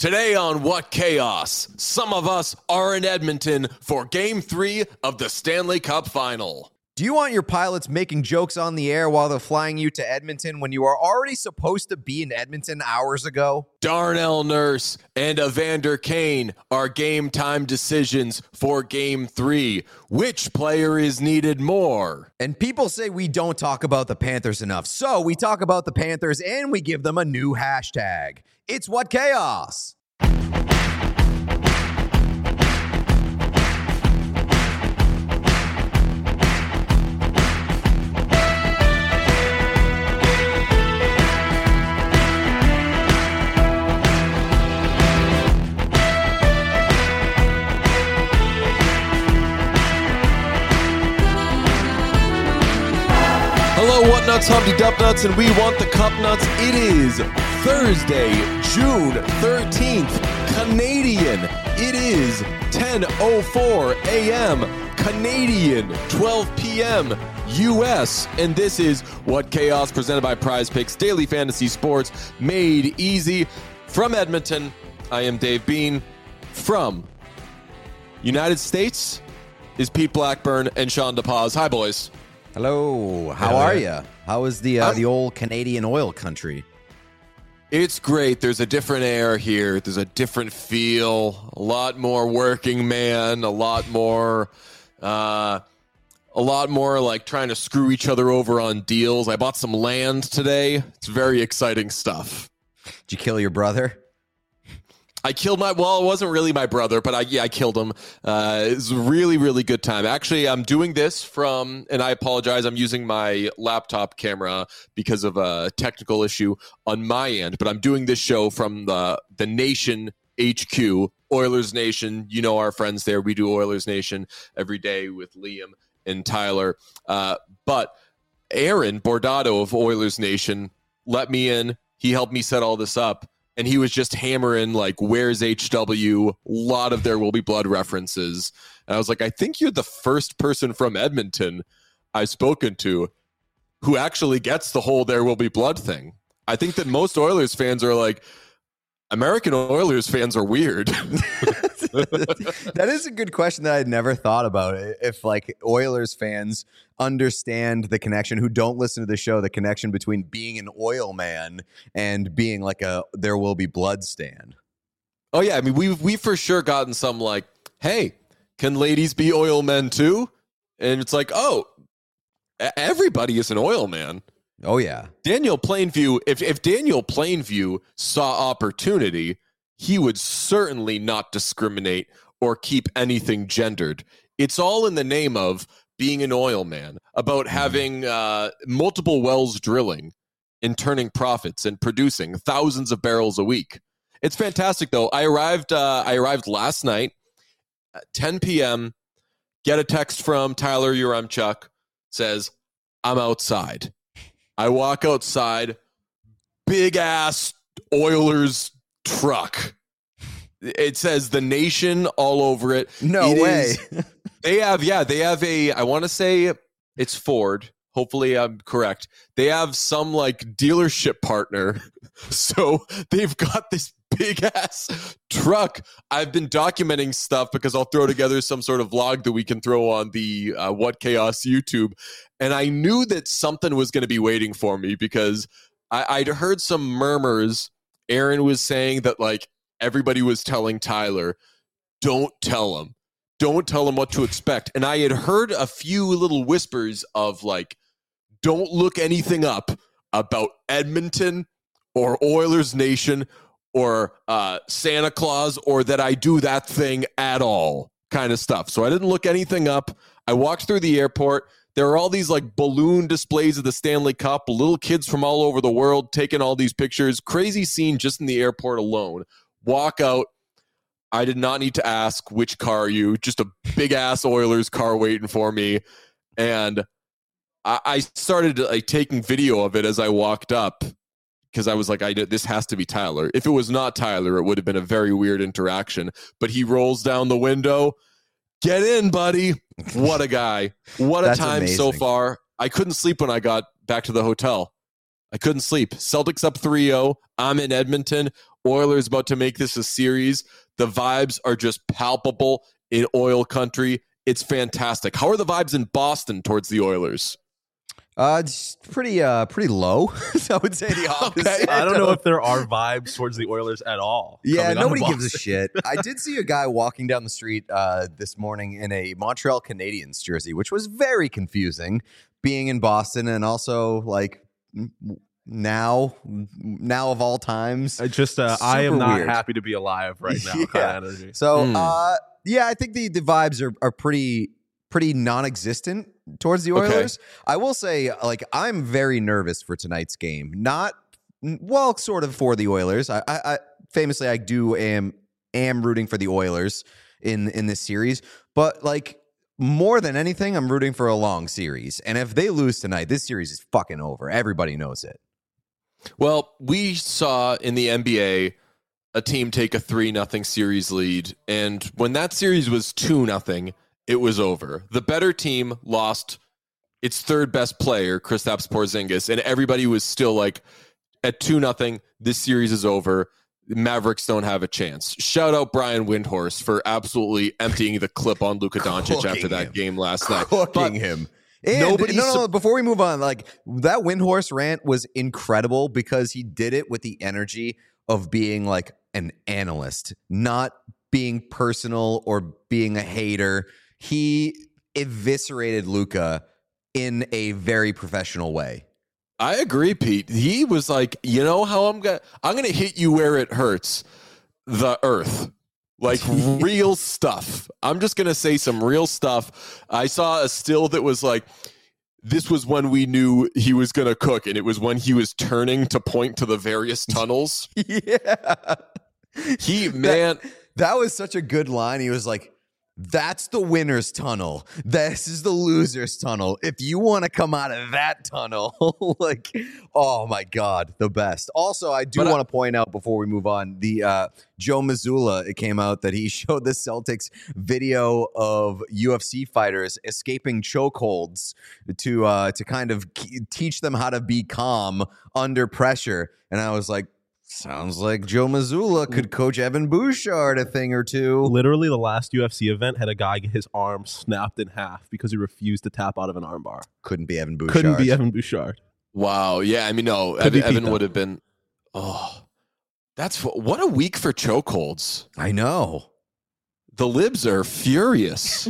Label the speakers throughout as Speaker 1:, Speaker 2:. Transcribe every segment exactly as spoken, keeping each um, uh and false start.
Speaker 1: Today on What Chaos, some of us are in Edmonton for Game three of the Stanley Cup Final.
Speaker 2: Do you want your pilots making jokes on the air while they're flying you to Edmonton when you are already supposed to be in Edmonton hours ago?
Speaker 1: Darnell Nurse and Evander Kane are game time decisions for Game three. Which player is needed more?
Speaker 2: And people say we don't talk about the Panthers enough, so we talk about the Panthers and we give them a new hashtag. It's What Chaos.
Speaker 1: Hello, What Nuts, Humpty Dup Nuts, and we want the Cup Nuts. It is Thursday, June thirteenth, Canadian. It is ten oh four a.m. Canadian, twelve p.m. U S, and this is What Chaos, presented by Prize Picks, daily fantasy sports made easy. From Edmonton, I am Dave Bean. From United States is Pete Blackburn and Sean DePaz. Hi, boys.
Speaker 2: Hello, how
Speaker 1: Hello.
Speaker 2: are you? How is the uh,
Speaker 1: I'm-
Speaker 2: the old Canadian oil country?
Speaker 1: It's great. There's a different air here. There's a different feel. A lot more working man. A lot more, uh, a lot more like trying to screw each other over on deals. I bought some land today. It's very exciting stuff.
Speaker 2: Did you kill your brother?
Speaker 1: I killed my, well, it wasn't really my brother, but I, yeah, I killed him. Uh, it was a really, really good time. Actually, I'm doing this from, and I apologize, I'm using my laptop camera because of a technical issue on my end, but I'm doing this show from the, the Nation H Q, Oilers Nation. You know our friends there. We do Oilers Nation every day with Liam and Tyler. Uh, but Aaron Bordato of Oilers Nation let me in. He helped me set all this up. And he was just hammering, like, where's H W? A lot of There Will Be Blood references. And I was like, I think you're the first person from Edmonton I've spoken to who actually gets the whole There Will Be Blood thing. I think that most Oilers fans are like, American Oilers fans are weird.
Speaker 2: That is a good question that I'd never thought about. If, like, Oilers fans understand the connection, who don't listen to the show, the connection between being an oil man and being like a There Will Be Blood stan.
Speaker 1: Oh, yeah. I mean, we've, we've for sure gotten some like, hey, can ladies be oil men too? And it's like, oh, everybody is an oil man.
Speaker 2: Oh, yeah.
Speaker 1: Daniel Plainview, if, if Daniel Plainview saw opportunity, he would certainly not discriminate or keep anything gendered. It's all in the name of being an oil man, about having uh, multiple wells drilling and turning profits and producing thousands of barrels a week. It's fantastic, though. I arrived. Uh, I arrived last night at ten p.m. Get a text from Tyler Uremchuk, says, I'm outside. I walk outside, big ass Oilers truck. It says the Nation all over it.
Speaker 2: No
Speaker 1: It
Speaker 2: way.
Speaker 1: is- they have, yeah, they have a, I want to say it's Ford. Hopefully I'm correct. They have some like dealership partner. So they've got this big ass truck. I've been documenting stuff because I'll throw together some sort of vlog that we can throw on the uh, What Chaos YouTube. And I knew that something was going to be waiting for me because I, I'd heard some murmurs. Aaron was saying that like everybody was telling Tyler, don't tell him. Don't tell him what to expect. And I had heard a few little whispers of like, don't look anything up about Edmonton or Oilers Nation or uh, Santa Claus or that I do that thing at all kind of stuff. So I didn't look anything up. I walked through the airport. There are all these like balloon displays of the Stanley Cup, little kids from all over the world taking all these pictures. Crazy scene just in the airport alone. Walk out. I did not need to ask which car are you, just a big ass Oilers car waiting for me. And I, I started like taking video of it as I walked up because I was like, I this has to be Tyler. If it was not Tyler, it would have been a very weird interaction. But he rolls down the window. Get in, buddy. What a guy. What a
Speaker 2: That's
Speaker 1: time
Speaker 2: amazing.
Speaker 1: so far. I couldn't sleep when I got back to the hotel. I couldn't sleep. Celtics up three oh. I'm in Edmonton. Oilers about to make this a series. The vibes are just palpable in oil country. It's fantastic. How are the vibes in Boston towards the Oilers?
Speaker 2: Uh, it's pretty, uh, pretty low. I would say the opposite.
Speaker 3: Okay. I don't know if there are vibes towards the Oilers at all.
Speaker 2: Yeah, nobody gives a shit. I did see a guy walking down the street uh, this morning in a Montreal Canadiens jersey, which was very confusing. Being in Boston and also like now, now of all times,
Speaker 3: I just uh, I am not
Speaker 2: weird.
Speaker 3: happy to be alive right now.
Speaker 2: Yeah.
Speaker 3: Kind of energy.
Speaker 2: So,
Speaker 1: Mm.
Speaker 2: uh, yeah, I think the the vibes are are pretty pretty non-existent towards the Oilers. Okay. I will say, like, I'm very nervous for tonight's game. Not well, sort of for the Oilers. I, I, I famously I do am am rooting for the Oilers in in this series, but like. More than anything, I'm rooting for a long series. And if they lose tonight, this series is fucking over. Everybody knows it.
Speaker 1: Well, we saw in the N B A a team take a three nothing series lead. And when that series was two nothing, it was over. The better team lost its third best player, Kristaps Porzingis, and everybody was still like, at two nothing, this series is over. Mavericks don't have a chance. Shout out Brian Windhorst for absolutely emptying the clip on Luka Doncic
Speaker 2: Cooking
Speaker 1: after that
Speaker 2: him.
Speaker 1: game last night.
Speaker 2: Cooking
Speaker 1: But
Speaker 2: him. And
Speaker 1: nobody
Speaker 2: no, no,
Speaker 1: su-
Speaker 2: no, before we move on, like that Windhorst rant was incredible because he did it with the energy of being like an analyst, not being personal or being a hater. He eviscerated Luka in a very professional way.
Speaker 1: I agree, Pete. He was like, you know how I'm gonna I'm gonna hit you where it hurts. The earth. Like real stuff. I'm just gonna say some real stuff. I saw a still that was like, this was when we knew he was gonna cook, and it was when he was turning to point to the various tunnels.
Speaker 2: Yeah.
Speaker 1: He man
Speaker 2: that, that was such a good line. He was like, that's the winner's tunnel. This is the loser's tunnel. If you want to come out of that tunnel, like, oh my God, the best. Also, I do want to point out before we move on, the uh, Joe Mazzulla, it came out that he showed the Celtics video of U F C fighters escaping chokeholds to uh, to kind of teach them how to be calm under pressure. And I was like, sounds like Joe Mazzulla could coach Evan Bouchard a thing or two.
Speaker 3: Literally, the last U F C event had a guy get his arm snapped in half because he refused to tap out of an armbar.
Speaker 2: Couldn't be Evan Bouchard.
Speaker 3: Couldn't be Evan Bouchard.
Speaker 1: Wow. Yeah, I mean, no,
Speaker 3: Could
Speaker 1: Evan,
Speaker 3: be
Speaker 1: Evan
Speaker 3: Pete,
Speaker 1: would have been. Oh, that's what a week for chokeholds.
Speaker 2: I know.
Speaker 1: The libs are furious.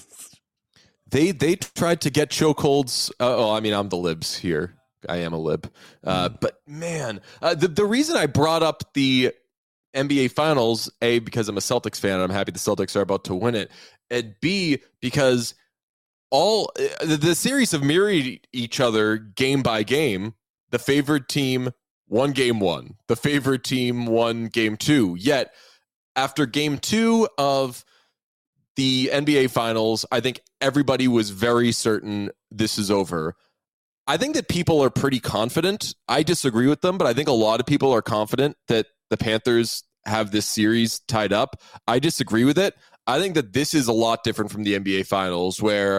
Speaker 1: they they tried to get chokeholds. Uh, oh, I mean, I'm the libs here. I am a lib. Uh, but man, uh, the, the reason I brought up the N B A Finals, A, because I'm a Celtics fan and I'm happy the Celtics are about to win it, and B, because all uh, the, the series have mirrored each other game by game. The favored team won game one. The favored team won game two. Yet, after game two of the N B A Finals, I think everybody was very certain this is over. I think that people are pretty confident. I disagree with them, but I think a lot of people are confident that the Panthers have this series tied up. I disagree with it. I think that this is a lot different from the N B A Finals, where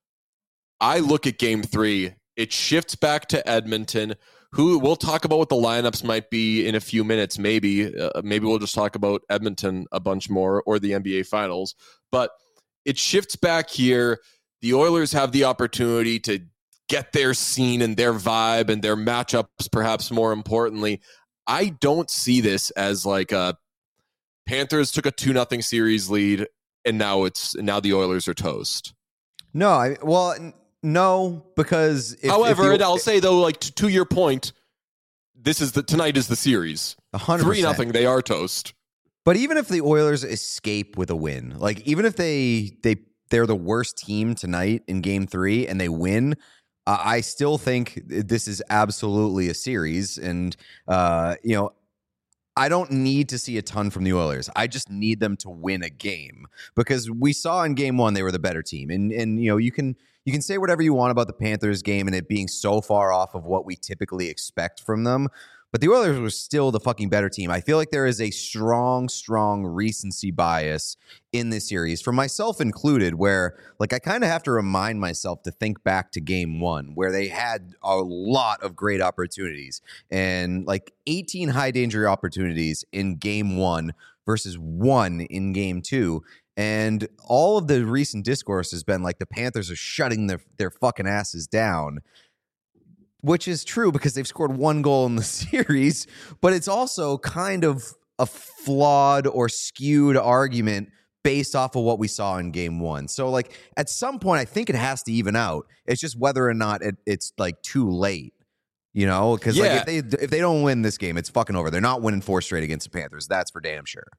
Speaker 1: I look at game three, it shifts back to Edmonton, who we'll talk about what the lineups might be in a few minutes. Maybe, uh, maybe we'll just talk about Edmonton a bunch more or the N B A Finals, but it shifts back here. The Oilers have the opportunity to get their scene and their vibe and their matchups, perhaps more importantly. I don't see this as like a Panthers took a two nothing series lead and now it's now the Oilers are toast.
Speaker 2: No, I well, n- no, because if,
Speaker 1: however,
Speaker 2: if
Speaker 1: and
Speaker 2: the,
Speaker 1: I'll say though, like to, to your point, this is the tonight is the series.
Speaker 2: one hundred percent.
Speaker 1: Three nothing, they are toast.
Speaker 2: But even if the Oilers escape with a win, like even if they they they're the worst team tonight in game three and they win, uh, I still think this is absolutely a series. And uh, you know, I don't need to see a ton from the Oilers. I just need them to win a game, because we saw in game one they were the better team. And and you know, you can you can say whatever you want about the Panthers game and it being so far off of what we typically expect from them. but the Oilers were still the fucking better team. I feel like there is a strong, strong recency bias in this series, for myself included, where like I kind of have to remind myself to think back to game one, where they had a lot of great opportunities and like eighteen high danger opportunities in game one versus one in game two. And all of the recent discourse has been like the Panthers are shutting their, their fucking asses down, which is true because they've scored one goal in the series, but it's also kind of a flawed or skewed argument based off of what we saw in game one. So like at some point, I think it has to even out. It's just whether or not it, it's like too late, you know, because
Speaker 1: Yeah.
Speaker 2: like if they, if they don't win this game, it's fucking over. They're not winning four straight against the Panthers. That's for damn sure.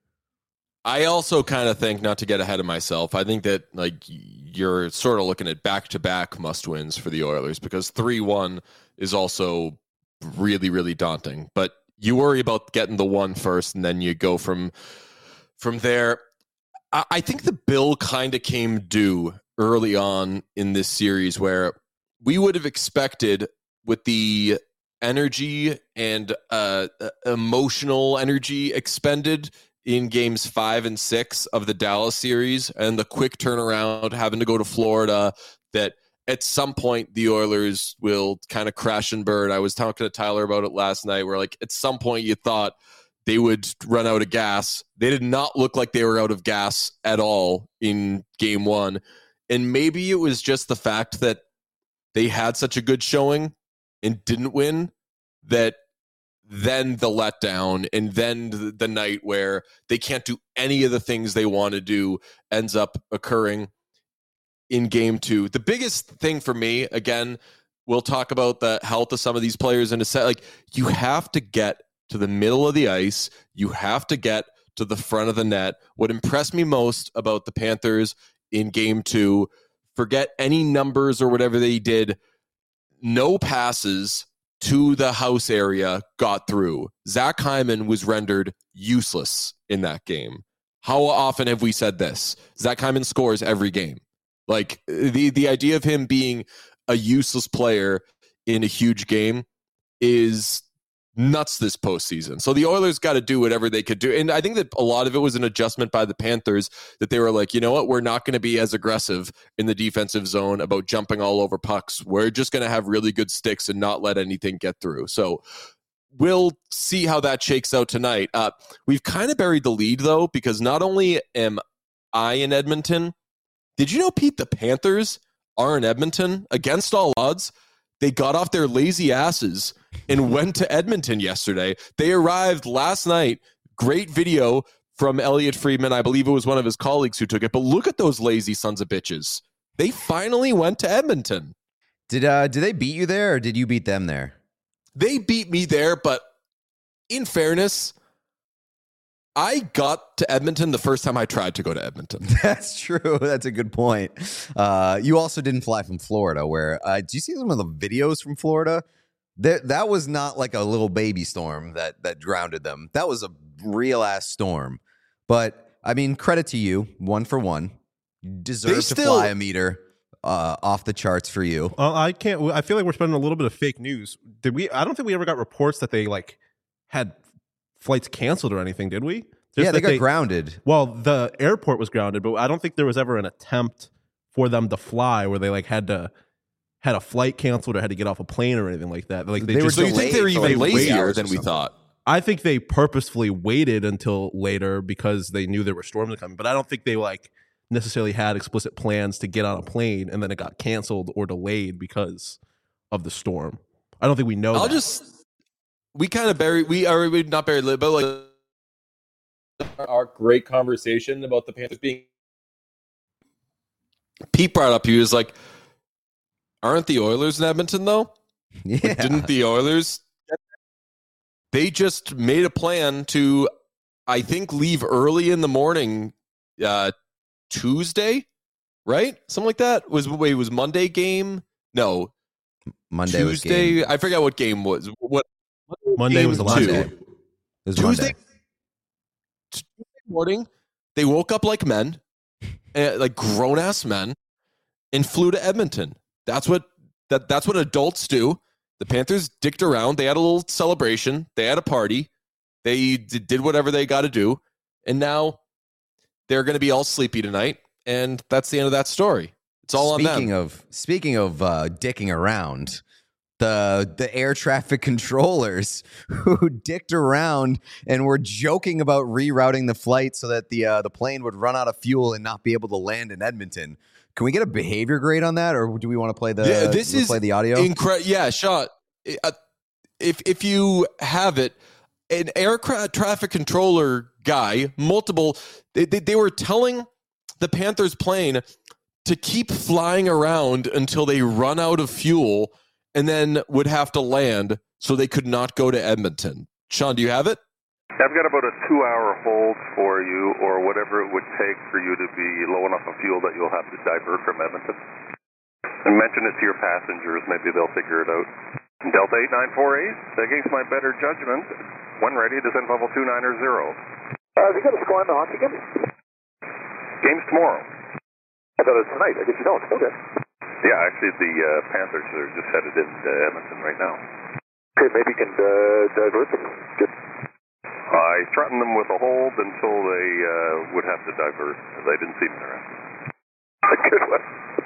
Speaker 1: I also kind of think, not to get ahead of myself, I think that like you're sort of looking at back-to-back must-wins for the Oilers because three one is also really, really daunting. But you worry about getting the one first, and then you go from from there. I, I think the bill kind of came due early on in this series where we would have expected with the energy and uh, emotional energy expended in games five and six of the Dallas series and the quick turnaround having to go to Florida, that at some point the Oilers will kind of crash and burn. I was talking to Tyler about it last night where like at some point you thought they would run out of gas. They did not look like they were out of gas at all in game one. And maybe it was just the fact that they had such a good showing and didn't win that then the letdown and then the, the night where they can't do any of the things they want to do ends up occurring in game two. The biggest thing for me, again, we'll talk about the health of some of these players in a set. Like you have to get to the middle of the ice. You have to get to the front of the net. What impressed me most about the Panthers in game two, forget any numbers or whatever they did, no passes to the house area got through. Zach Hyman was rendered useless in that game. How often have we said this? Zach Hyman scores every game. Like the, the idea of him being a useless player in a huge game is nuts this postseason. So the Oilers got to do whatever they could do. And I think that a lot of it was an adjustment by the Panthers that they were like, you know what, we're not going to be as aggressive in the defensive zone about jumping all over pucks. We're just going to have really good sticks and not let anything get through. So we'll see how that shakes out tonight. Uh, we've kind of buried the lead, though, because not only am I in Edmonton, did you know, Pete, the Panthers are in Edmonton against all odds? They got off their lazy asses and went to Edmonton yesterday. They arrived last night. Great video from Elliot Friedman. I believe it was one of his colleagues who took it. But look at those lazy sons of bitches. They finally went to Edmonton.
Speaker 2: Did uh did they beat you there or did you beat them there?
Speaker 1: They beat me there, but in fairness, I got to Edmonton the first time I tried to go to Edmonton.
Speaker 2: That's true. That's a good point. Uh, you also didn't fly from Florida, where uh, do you see some of the videos from Florida? That that was not like a little baby storm that that drowned them. That was a real ass storm. But I mean, credit to you, one for one. You deserve
Speaker 1: They
Speaker 2: to
Speaker 1: still-
Speaker 2: fly a meter uh, off the charts for you.
Speaker 3: Uh, I can't. I feel like we're spending a little bit of fake news. Did we? I don't think we ever got reports that they like had flights canceled or anything. Did we? Just
Speaker 2: yeah, they
Speaker 3: that
Speaker 2: got grounded.
Speaker 3: Well, the airport was grounded, but I don't think there was ever an attempt for them to fly where they like had to had a flight canceled or had to get off a plane or anything like that. Like they,
Speaker 2: They were
Speaker 3: just
Speaker 1: So you think they were
Speaker 2: delayed for,
Speaker 1: even
Speaker 2: like, three
Speaker 1: lazier
Speaker 2: hours or
Speaker 1: than we
Speaker 2: something.
Speaker 1: thought?
Speaker 3: I think they purposefully waited until later because they knew there were storms coming. But I don't think they like necessarily had explicit plans to get on a plane and then it got canceled or delayed because of the storm. I don't think we know.
Speaker 1: I'll
Speaker 3: that.
Speaker 1: just we kind of buried we are we not buried but like our great conversation about the Panthers being Pete brought up he was like, aren't the Oilers in Edmonton though?
Speaker 2: Yeah.
Speaker 1: Like, didn't the Oilers they just made a plan to I think leave early in the morning uh Tuesday, right? Something like that. Was wait, was Monday game? No.
Speaker 2: Monday was
Speaker 1: Tuesday.
Speaker 2: game.
Speaker 1: I forget what game was. What
Speaker 3: Monday was the last
Speaker 1: two.
Speaker 3: day.
Speaker 2: It was
Speaker 1: Tuesday,
Speaker 2: Monday.
Speaker 1: Tuesday morning, they woke up like men, uh, like grown ass men, and flew to Edmonton. That's what that that's what adults do. The Panthers dicked around. They had a little celebration. They had a party. They d- did whatever they got to do. And now they're going to be all sleepy tonight. And that's the end of that story. It's all
Speaker 2: speaking
Speaker 1: on them.
Speaker 2: Speaking of speaking of uh, dicking around, the the air traffic controllers who dicked around and were joking about rerouting the flight so that the uh, the plane would run out of fuel and not be able to land in Edmonton. Can we get a behavior grade on that, or do we want to play the
Speaker 1: yeah, this is
Speaker 2: play the audio?
Speaker 1: Incre- yeah, Sean. Uh, if if you have it, an aircraft traffic controller guy, multiple, they, they, they were telling the Panthers plane to keep flying around until they run out of fuel and then would have to land so they could not go to Edmonton. Sean, do you have it?
Speaker 4: I've got about a two-hour hold for you, or whatever it would take for you to be low enough of fuel that you'll have to divert from Edmonton. And mention it to your passengers. Maybe they'll figure it out. Delta eight nine four eight, against my better judgment, when ready, descend level two niner zero.
Speaker 5: Uh, have you got a score on the hockey game?
Speaker 4: Game's tomorrow.
Speaker 5: I thought it was tonight. I guess you don't. Okay.
Speaker 4: Yeah, actually, the uh, Panthers are just headed into Edmonton right now.
Speaker 5: Okay, maybe you can uh, divert them. Good.
Speaker 4: I threatened them with a hold until they uh, would have to divert, because I didn't see them around.
Speaker 5: A good one.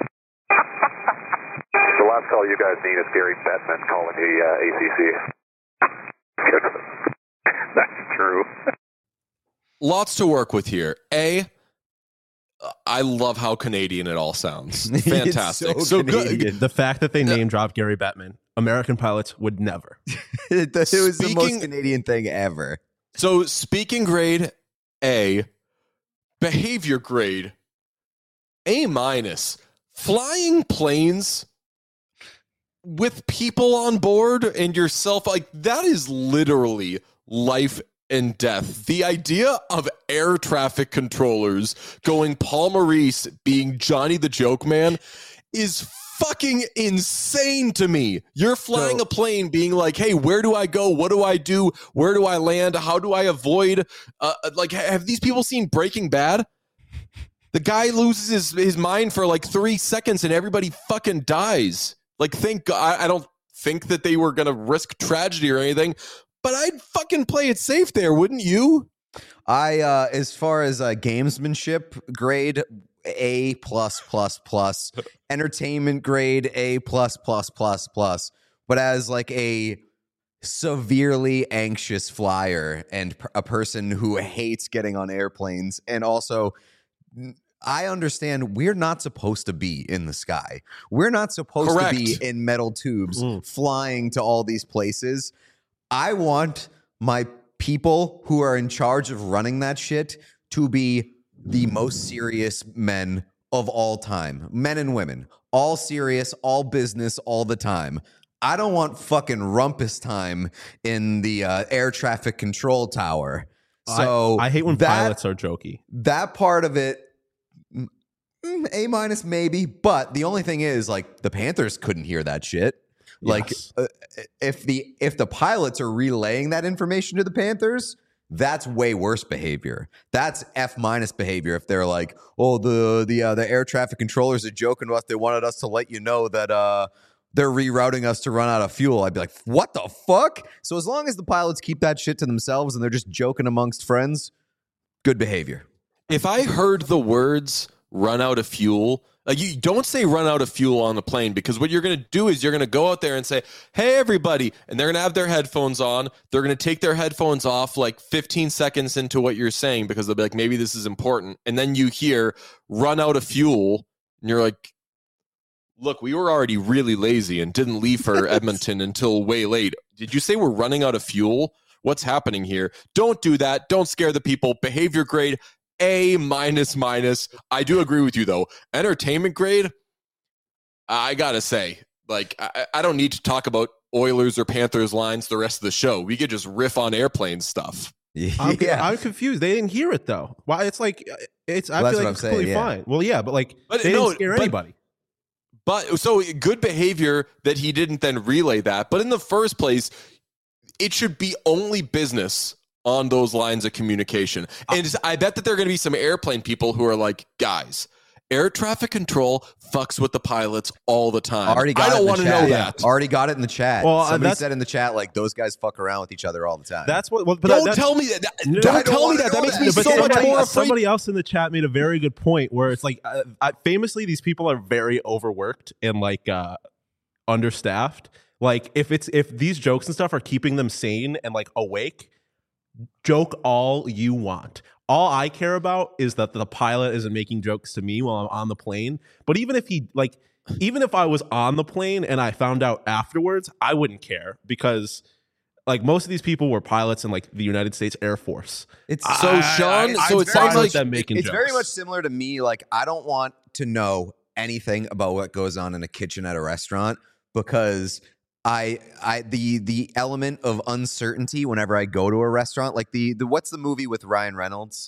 Speaker 5: The last call you guys need is Gary Bettman calling the uh, A C C. Good one.
Speaker 4: That's true.
Speaker 1: Lots to work with here. A, I love how Canadian it all sounds. Fantastic.
Speaker 2: so
Speaker 1: so
Speaker 2: Canadian.
Speaker 1: good.
Speaker 3: The fact that they name dropped Gary Bettman, American pilots would never.
Speaker 2: it, it was the most
Speaker 1: Speaking-
Speaker 2: Canadian thing ever.
Speaker 1: So speaking grade A, behavior grade A minus. Flying planes with people on board and yourself, like that is literally life and death. The idea of air traffic controllers going Paul Maurice being Johnny the Joke Man is fucking insane to me. You're flying
Speaker 2: So-
Speaker 1: a plane being like, hey, where do I go? What do I do? Where do I land? How do I avoid? Uh, like, have these people seen Breaking Bad? The guy loses his, his mind for like three seconds and everybody fucking dies. Like, thank God. I, I don't think that they were going to risk tragedy or anything, but I'd fucking play it safe there, wouldn't you?
Speaker 2: I, uh, as far as uh, gamesmanship grade, A plus plus plus, entertainment grade A plus plus plus plus. But as like a severely anxious flyer and p- a person who hates getting on airplanes, and also I understand we're not supposed to be in the sky. We're not supposed
Speaker 1: Correct.
Speaker 2: to be in metal tubes
Speaker 3: Mm.
Speaker 2: flying to all these places. I want my people who are in charge of running that shit to be the most serious men of all time. Men and women. All serious, all business, all the time. I don't want fucking rumpus time in the uh, air traffic control tower. So
Speaker 3: I, I hate when
Speaker 2: that,
Speaker 3: pilots are jokey.
Speaker 2: That part of it, mm, A minus maybe. But the only thing is, like, the Panthers couldn't hear that shit. Like,
Speaker 3: Yes.
Speaker 2: uh, if the if the pilots are relaying that information to the Panthers, that's way worse behavior. That's F minus behavior. If they're like, oh, the the uh, the air traffic controllers are joking to us. They wanted us to let you know that uh, they're rerouting us to run out of fuel. I'd be like, what the fuck? So as long as the pilots keep that shit to themselves and they're just joking amongst friends, good behavior.
Speaker 1: If I heard the words run out of fuel, like you don't say run out of fuel on the plane, because what you're going to do is you're going to go out there and say, hey, everybody. And they're going to have their headphones on. They're going to take their headphones off like fifteen seconds into what you're saying, because they'll be like, maybe this is important. And then you hear run out of fuel. And you're like, look, we were already really lazy and didn't leave for Edmonton until way late. Did you say we're running out of fuel? What's happening here? Don't do that. Don't scare the people. Behavior grade A minus minus. I do agree with you though. Entertainment grade, I gotta say, like I, I don't need to talk about Oilers or Panthers lines the rest of the show. We could just riff on airplane stuff.
Speaker 3: I'm,
Speaker 2: yeah.
Speaker 3: I'm confused. They didn't hear it though. Why? It's like it's. I
Speaker 2: Well, that's
Speaker 3: feel
Speaker 2: what
Speaker 3: like
Speaker 2: I'm
Speaker 3: it's
Speaker 2: saying,
Speaker 3: completely
Speaker 2: yeah.
Speaker 3: fine. Well, yeah, but like
Speaker 1: But
Speaker 3: they
Speaker 1: no,
Speaker 3: didn't scare
Speaker 1: but-
Speaker 3: anybody.
Speaker 1: But so good behavior that he didn't then relay that. But in the first place, it should be only business on those lines of communication. And I bet that there are going to be some airplane people who are like, guys, Air traffic control fucks with the pilots all the time.
Speaker 2: Already got
Speaker 1: I
Speaker 2: it
Speaker 1: don't
Speaker 2: in the
Speaker 1: want to
Speaker 2: chat.
Speaker 1: know
Speaker 2: Yeah.
Speaker 1: that.
Speaker 2: Already got it in the chat.
Speaker 3: Well, uh,
Speaker 2: Somebody
Speaker 3: that's-
Speaker 2: said in the chat, like, those guys fuck around with each other all the time.
Speaker 3: That's what. Well, but
Speaker 1: Don't
Speaker 3: that's,
Speaker 1: tell me that. that-
Speaker 3: No,
Speaker 1: don't
Speaker 3: I don't
Speaker 1: tell me
Speaker 2: wanna
Speaker 1: that. That
Speaker 2: know
Speaker 1: makes
Speaker 2: that.
Speaker 1: me
Speaker 3: but
Speaker 1: so much
Speaker 3: somebody,
Speaker 1: more afraid.
Speaker 3: somebody else in the chat made a very good point where it's like, uh, I, famously, these people are very overworked and like uh, understaffed. Like if it's if these jokes and stuff are keeping them sane and like awake, joke all you want. All I care about is that the pilot isn't making jokes to me while I'm on the plane. But even if he like, even if I was on the plane and I found out afterwards, I wouldn't care because like most of these people were pilots in like the United States Air Force.
Speaker 2: It's
Speaker 1: So
Speaker 3: I-
Speaker 1: Sean,
Speaker 3: I-
Speaker 1: so
Speaker 3: it's
Speaker 1: it
Speaker 3: fine
Speaker 1: sounds
Speaker 3: with
Speaker 1: like
Speaker 3: them making
Speaker 2: it's
Speaker 3: jokes.
Speaker 2: very much similar to me. Like, I don't want to know anything about what goes on in a kitchen at a restaurant because I, I, the the element of uncertainty whenever I go to a restaurant, like the the what's the movie with Ryan Reynolds?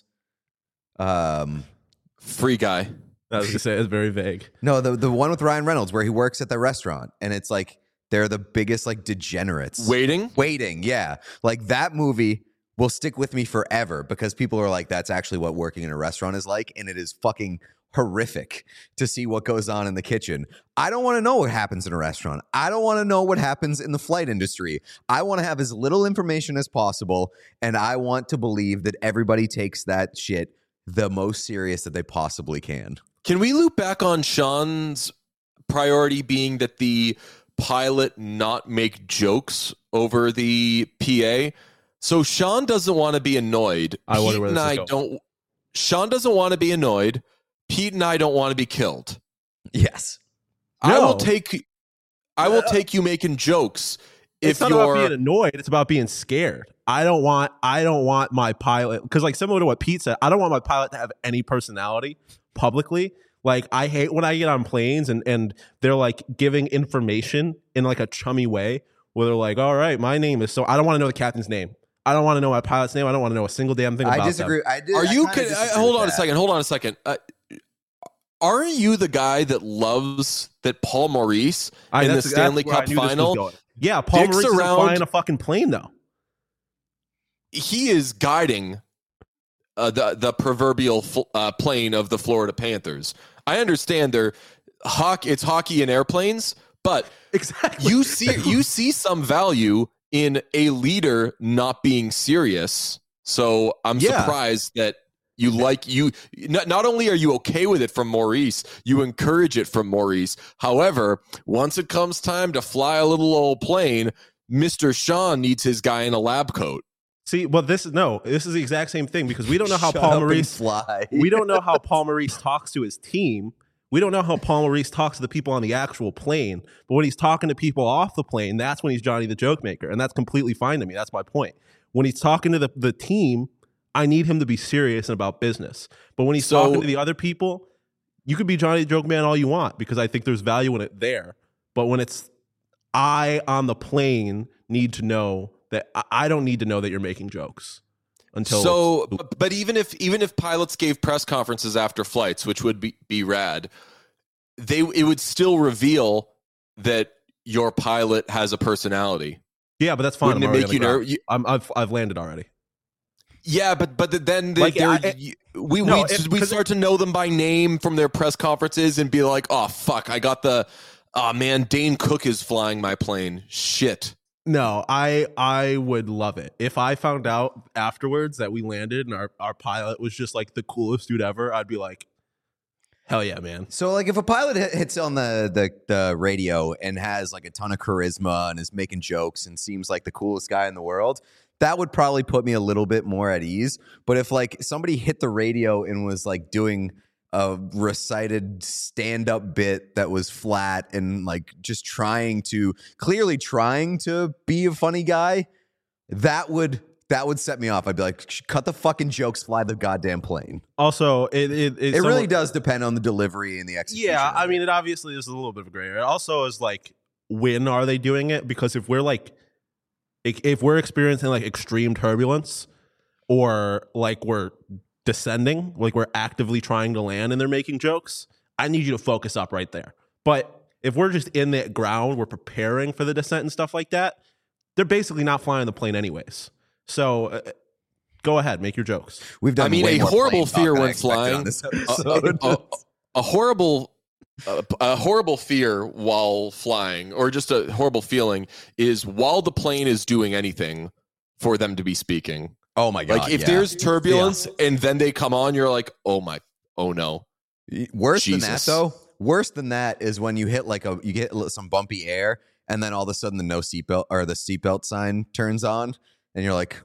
Speaker 2: Um,
Speaker 1: Free Guy.
Speaker 3: I was gonna say it's very vague.
Speaker 2: no, the the one with Ryan Reynolds where he works at the restaurant and it's like they're the biggest like degenerates.
Speaker 1: Waiting.
Speaker 2: Waiting, yeah. Like that movie will stick with me forever because people are like, that's actually what working in a restaurant is like. And it is fucking horrific to see what goes on in the kitchen. I don't want to know what happens in a restaurant. I don't want to know what happens in the flight industry. I want to have as little information as possible. And I want to believe that everybody takes that shit the most serious that they possibly can.
Speaker 1: Can we loop back on Sean's priority being that the pilot not make jokes over the P A? So Sean doesn't want to be annoyed.
Speaker 3: I wonder
Speaker 1: Pete
Speaker 3: where
Speaker 1: and
Speaker 3: this is
Speaker 1: I
Speaker 3: going.
Speaker 1: don't. Sean doesn't want to be annoyed. Pete and I don't want to be killed.
Speaker 2: Yes.
Speaker 1: I
Speaker 3: No.
Speaker 1: will take. I will take you making jokes
Speaker 3: It's
Speaker 1: if
Speaker 3: not about
Speaker 1: you're.
Speaker 3: being annoyed. It's about being scared. I don't want. I don't want my pilot because, like, similar to what Pete said, I don't want my pilot to have any personality publicly. Like, I hate when I get on planes and and they're like giving information in like a chummy way where they're like, "All right, my name is so." I don't want to know the captain's name. I don't want to know my pilot's name. I don't want to know a single damn thing about
Speaker 2: I disagree.
Speaker 3: them.
Speaker 2: I did,
Speaker 1: Are
Speaker 2: I
Speaker 1: you?
Speaker 2: kinda
Speaker 1: Can, I,
Speaker 2: disagree
Speaker 1: hold
Speaker 2: with
Speaker 1: on a
Speaker 2: that.
Speaker 1: second. Hold on a second. Uh, aren't you the guy that loves that Paul Maurice
Speaker 3: I,
Speaker 1: in the
Speaker 3: that's-
Speaker 1: Stanley
Speaker 3: that's where I
Speaker 1: Cup
Speaker 3: knew this was
Speaker 1: final?
Speaker 3: going. Yeah, Paul
Speaker 1: Dicks
Speaker 3: Maurice isn't
Speaker 1: around-
Speaker 3: flying a fucking plane though.
Speaker 1: He is guiding uh, the the proverbial fl- uh, plane of the Florida Panthers. I understand they're hockey. It's hockey and airplanes, but
Speaker 3: Exactly.
Speaker 1: you see you see some value in a leader not being serious. So I'm
Speaker 3: Yeah.
Speaker 1: surprised that you like you not, not only are you okay with it from Maurice, you encourage it from Maurice. However, once it comes time to fly a little old plane, Mister Sean needs his guy in a lab coat.
Speaker 3: See, well, this is no. This is the exact same thing because we don't know how
Speaker 2: Shut
Speaker 3: Paul
Speaker 2: up and
Speaker 3: Maurice.
Speaker 2: fly.
Speaker 3: We don't know how Paul Maurice talks to his team. We don't know how Paul Maurice talks to the people on the actual plane. But when he's talking to people off the plane, that's when he's Johnny the Joke Maker, and that's completely fine to me. That's my point. When he's talking to the, the team, I need him to be serious and about business. But when he's
Speaker 1: So-
Speaker 3: talking to the other people, you could be Johnny the Joke Man all you want because I think there's value in it there. But when it's I on the plane need to know that I- I don't need to know that you're making jokes until
Speaker 1: So,
Speaker 3: it's-
Speaker 1: but, but even if even if pilots gave press conferences after flights, which would be, be rad, they it would still reveal that your pilot has a personality.
Speaker 3: yeah, but that's fine.
Speaker 1: Wouldn't
Speaker 3: I'm
Speaker 1: it
Speaker 3: already
Speaker 1: make
Speaker 3: on
Speaker 1: you
Speaker 3: the ground.
Speaker 1: nervous? You-
Speaker 3: I'm, I've I've landed already.
Speaker 1: Yeah, but but then they,
Speaker 3: Like,
Speaker 1: they're-
Speaker 3: I-
Speaker 1: you- we
Speaker 3: No,
Speaker 1: we,
Speaker 3: it-
Speaker 1: we
Speaker 3: 'cause
Speaker 1: start to know them by name from their press conferences and be like, oh fuck, I got the, oh man, Dane Cook is flying my plane. Shit.
Speaker 3: No, I I would love it if I found out afterwards that we landed and our, our pilot was just like the coolest dude ever. I'd be like, hell yeah, man.
Speaker 2: So, like, if a pilot hit- hits on the, the the radio and has like a ton of charisma and is making jokes and seems like the coolest guy in the world, that would probably put me a little bit more at ease. But if like somebody hit the radio and was like doing a recited stand-up bit that was flat and like just trying to clearly trying to be a funny guy, that would that would set me off. I'd be like, cut the fucking jokes, fly the goddamn plane.
Speaker 3: Also, it it,
Speaker 2: It
Speaker 3: someone-
Speaker 2: really does depend on the delivery and the execution.
Speaker 3: Yeah,
Speaker 2: of
Speaker 3: I
Speaker 2: it.
Speaker 3: mean, it obviously is a little bit of a gray area. It also is like, when are they doing it? Because if we're like, if if we're experiencing like extreme turbulence, or like we're descending, like we're actively trying to land and they're making jokes, I need you to focus up right there. But if we're just in the ground, we're preparing for the descent and stuff like that, they're basically not flying the plane anyways. So uh, go ahead, make your jokes.
Speaker 2: We've done
Speaker 1: I mean,
Speaker 2: way
Speaker 1: a
Speaker 2: more
Speaker 1: horrible
Speaker 2: plane talk
Speaker 1: fear
Speaker 2: than I
Speaker 1: when
Speaker 2: expected
Speaker 1: flying.
Speaker 2: on this
Speaker 1: a,
Speaker 2: episode.
Speaker 1: a- a horrible a, a horrible fear while flying, or just a horrible feeling, is while the plane is doing anything for them to be speaking.
Speaker 2: Oh my God.
Speaker 1: Like if
Speaker 2: yeah.
Speaker 1: there's turbulence yeah. and then they come on, you're like, oh my, oh no.
Speaker 2: Worse
Speaker 1: Jesus.
Speaker 2: than that though. Worse than that is when you hit like a, you get some bumpy air and then all of a sudden the no seatbelt or the seatbelt sign turns on and you're like,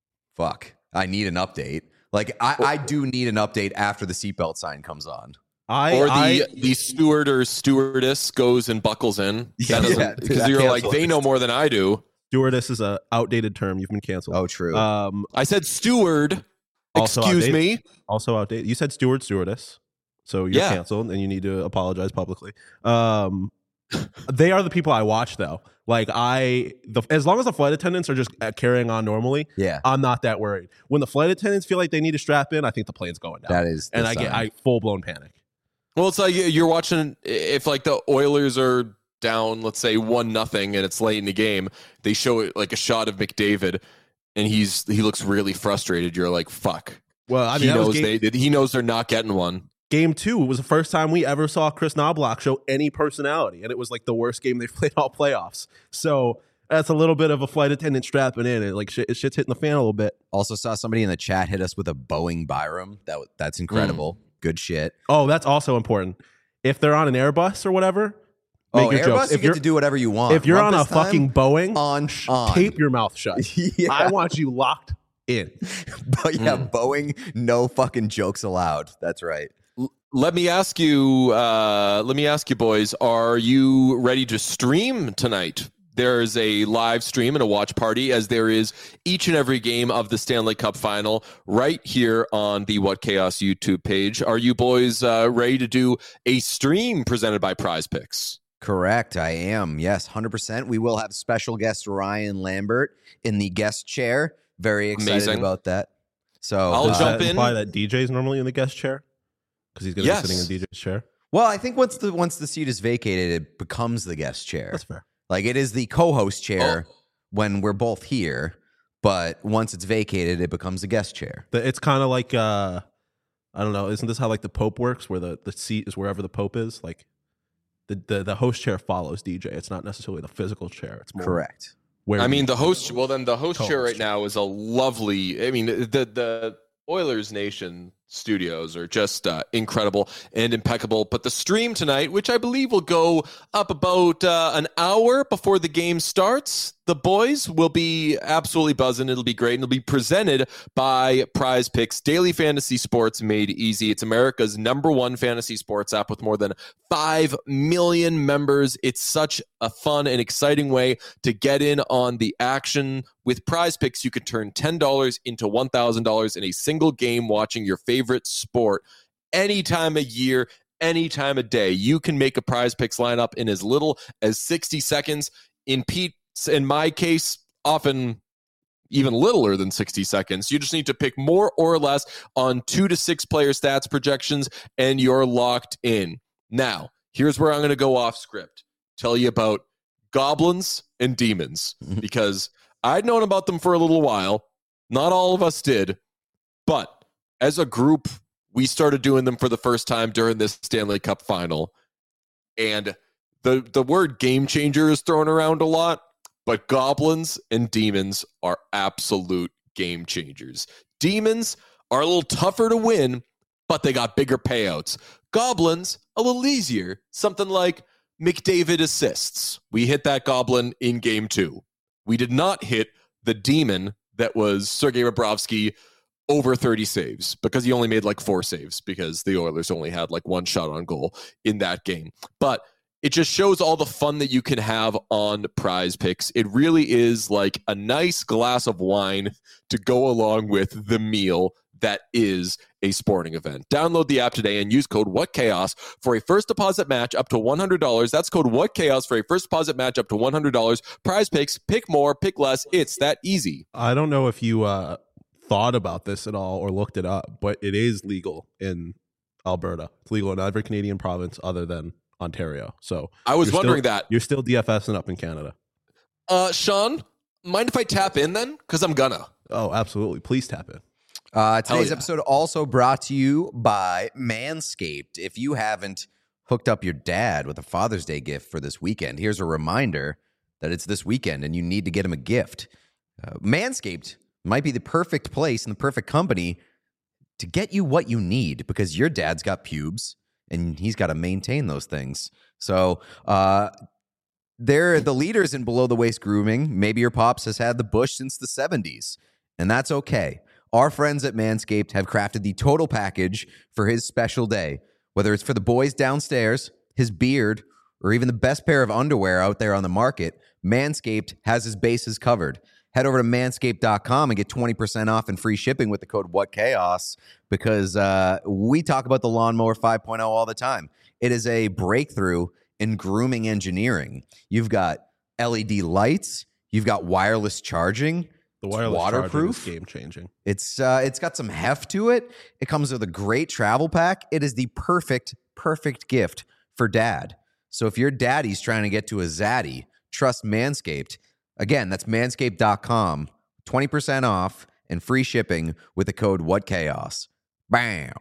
Speaker 2: fuck, I need an update. Like I, I do need an update after the seatbelt sign comes on.
Speaker 3: I,
Speaker 1: or the
Speaker 3: I,
Speaker 1: the steward or stewardess goes and buckles in.
Speaker 2: Yeah,
Speaker 1: because
Speaker 2: yeah,
Speaker 1: you're like, they know more than I do.
Speaker 3: Stewardess is a outdated term. You've been canceled.
Speaker 2: Oh, true.
Speaker 3: Um,
Speaker 1: I said steward.
Speaker 3: Also
Speaker 1: Excuse
Speaker 3: outdated.
Speaker 1: me.
Speaker 3: Also outdated. You said steward, stewardess. So you're
Speaker 1: Yeah.
Speaker 3: canceled and you need to apologize publicly. Um, they are the people I watch though. Like I, the, as long as the flight attendants are just carrying on normally,
Speaker 2: Yeah.
Speaker 3: I'm not that worried. When the flight attendants feel like they need to strap in, I think the plane's going down.
Speaker 2: That is the
Speaker 3: and I get
Speaker 2: sign.
Speaker 3: I full blown panic.
Speaker 1: Well, it's like you're watching, if like the Oilers are down, let's say one nothing, and it's late in the game, they show it like a shot of McDavid, and he's he looks really frustrated. You're like, fuck.
Speaker 3: Well, I mean,
Speaker 1: he
Speaker 3: that was
Speaker 1: knows
Speaker 3: game,
Speaker 1: they he knows they're not getting one.
Speaker 3: Game two was the first time we ever saw Chris Knobloch show any personality, and it was like the worst game they've played all playoffs. So that's a little bit of a flight attendant strapping in, and like shit, shit's hitting the fan a little bit.
Speaker 2: Also saw somebody in the chat hit us with a Boeing Byram. That that's incredible. Mm. Good shit.
Speaker 3: Oh, that's also important. If they're on an Airbus or whatever, make
Speaker 2: oh,
Speaker 3: your
Speaker 2: Airbus,
Speaker 3: jokes.
Speaker 2: you
Speaker 3: If
Speaker 2: get
Speaker 3: you're
Speaker 2: to do whatever you want.
Speaker 3: if you're
Speaker 2: Want
Speaker 3: on a
Speaker 2: this time?
Speaker 3: fucking Boeing,
Speaker 2: on, on.
Speaker 3: tape your mouth shut.
Speaker 2: Yeah.
Speaker 3: I want you locked in.
Speaker 2: But yeah,
Speaker 1: Mm.
Speaker 2: Boeing, no fucking jokes allowed. That's right.
Speaker 1: L- Let me ask you, uh, let me ask you, boys, are you ready to stream tonight? There's a live stream and a watch party, as there is each and every game of the Stanley Cup Final right here on the What Chaos YouTube page. Are you boys uh, ready to do a stream presented by Prize Picks?
Speaker 2: Correct. I am. Yes, one hundred percent. We will have special guest Ryan Lambert in the guest chair. Very excited
Speaker 1: Amazing.
Speaker 2: about that. So
Speaker 1: I'll
Speaker 3: Does
Speaker 2: uh,
Speaker 1: jump
Speaker 3: that
Speaker 1: in.
Speaker 3: imply that D J's normally in the guest chair? Because he's going to
Speaker 1: Yes.
Speaker 3: be sitting in D J's chair.
Speaker 2: Well, I think once the once the seat is vacated, it becomes the guest chair.
Speaker 3: That's fair.
Speaker 2: Like it is the co-host chair
Speaker 1: Oh.
Speaker 2: when we're both here, but once it's vacated, it becomes the guest chair.
Speaker 3: The- It's kind of like, uh, I don't know, isn't this how like the Pope works, where the, the seat is wherever the Pope is? Like the, the, the host chair follows D J. It's not necessarily the physical chair. It's more
Speaker 2: Correct.
Speaker 3: where
Speaker 1: I
Speaker 3: you-
Speaker 1: mean, the host, well, then the host chair
Speaker 3: Co-host
Speaker 1: right now is a lovely, I mean, the, the Oilers Nation studios are just uh, incredible and impeccable. But the stream tonight, which I believe will go up about uh, an hour before the game starts, the boys will be absolutely buzzing. It'll be great. And it'll be presented by Prize Picks, daily fantasy sports made easy. It's America's number one fantasy sports app with more than five million members. It's such a fun and exciting way to get in on the action. With Prize Picks, you can turn ten dollars into one thousand dollars in a single game watching your favorite sport any time of year, any time of day. You can make a Prize Picks lineup in as little as sixty seconds. In Pete's, in my case, often even littler than sixty seconds. You just need to pick more or less on two to six player stats projections, and you're locked in. Now, here's where I'm going to go off script. Tell you about goblins and demons, because I'd known about them for a little while. Not all of us did, but as a group, we started doing them for the first time during this Stanley Cup Final. And the the word game changer is thrown around a lot, but goblins and demons are absolute game changers. Demons are a little tougher to win, but they got bigger payouts. Goblins, a little easier. Something like McDavid assists. We hit that goblin in game two. We did not hit the demon that was Sergei Bobrovsky over thirty saves, because he only made like four saves because the Oilers only had like one shot on goal in that game. But it just shows all the fun that you can have on Prize Picks. It really is like a nice glass of wine to go along with the meal that is a sporting event. Download the app today and use code WhatChaos for a first deposit match up to one hundred dollars. That's code WhatChaos for a first deposit match up to one hundred dollars. Prize Picks, pick more, pick less. It's that easy.
Speaker 3: I don't know if you uh, thought about this at all or looked it up, but it is legal in Alberta. It's legal in every Canadian province other than Ontario. So
Speaker 1: I was
Speaker 3: you're
Speaker 1: wondering
Speaker 3: still,
Speaker 1: that.
Speaker 3: You're still DFSing up in Canada.
Speaker 1: Uh, Sean, mind if I tap in then? Because I'm gonna.
Speaker 3: Oh, absolutely. Please tap in.
Speaker 2: Uh, today's
Speaker 1: yeah.
Speaker 2: episode also brought to you by Manscaped. If you haven't hooked up your dad with a Father's Day gift for this weekend, here's a reminder that it's this weekend and you need to get him a gift. Uh, Manscaped might be the perfect place and the perfect company to get you what you need because your dad's got pubes and he's got to maintain those things. So uh, they're the leaders in below-the-waist grooming. Maybe your pops has had the bush since the seventies, and that's okay. Our friends at Manscaped have crafted the total package for his special day. Whether it's for the boys downstairs, his beard, or even the best pair of underwear out there on the market, Manscaped has his bases covered. Head over to manscaped dot com and get twenty percent off and free shipping with the code WhatChaos because uh, we talk about the Lawnmower five point oh all the time. It is a breakthrough in grooming engineering. You've got L E D lights. You've got wireless charging.
Speaker 3: The wireless
Speaker 2: waterproof,
Speaker 3: game changing.
Speaker 2: It's uh, it's got some heft to it. It comes with a great travel pack. It is the perfect, perfect gift for dad. So if your daddy's trying to get to a zaddy, trust Manscaped. Again, that's manscaped dot com. twenty percent off and free shipping with the code WhatChaos. Bam.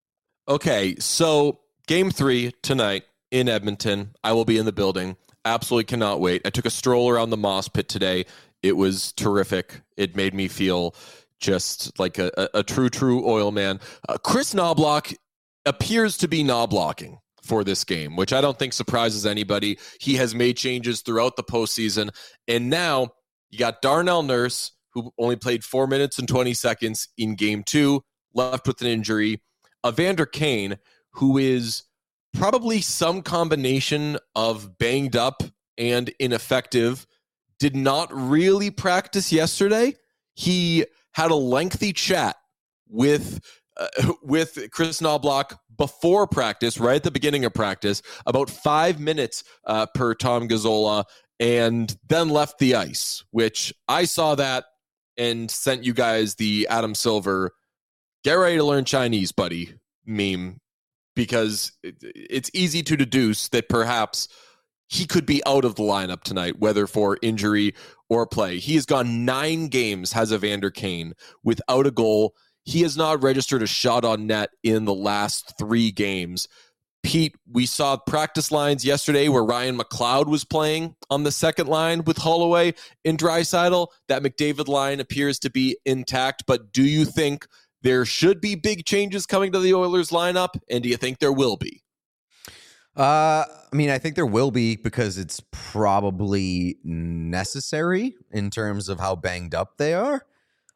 Speaker 1: Okay, so game three tonight in Edmonton. I will be in the building. Absolutely cannot wait. I took a stroll around the Moss Pit today. It was terrific. It made me feel just like a, a, a true, true oil man. Uh, Chris Knoblauch appears to be knoblauching for this game, which I don't think surprises anybody. He has made changes throughout the postseason. And now you got Darnell Nurse, who only played four minutes and twenty seconds in game two, left with an injury. Evander Kane, who is probably some combination of banged up and ineffective, did not really practice yesterday. He had a lengthy chat with uh, with Chris Knoblauch before practice, right at the beginning of practice, about five minutes uh, per Tom Gazzola, and then left the ice, which I saw that and sent you guys the Adam Silver, get ready to learn Chinese, buddy, meme, because it, it's easy to deduce that perhaps he could be out of the lineup tonight, whether for injury or play. He has gone nine games, has Evander Kane, without a goal. He has not registered a shot on net in the last three games. Pete, we saw practice lines yesterday where Ryan McLeod was playing on the second line with Holloway and Draisaitl. That McDavid line appears to be intact, but do you think there should be big changes coming to the Oilers lineup, and do you think there will be?
Speaker 2: Uh, I mean, I think there will be because it's probably necessary in terms of how banged up they are.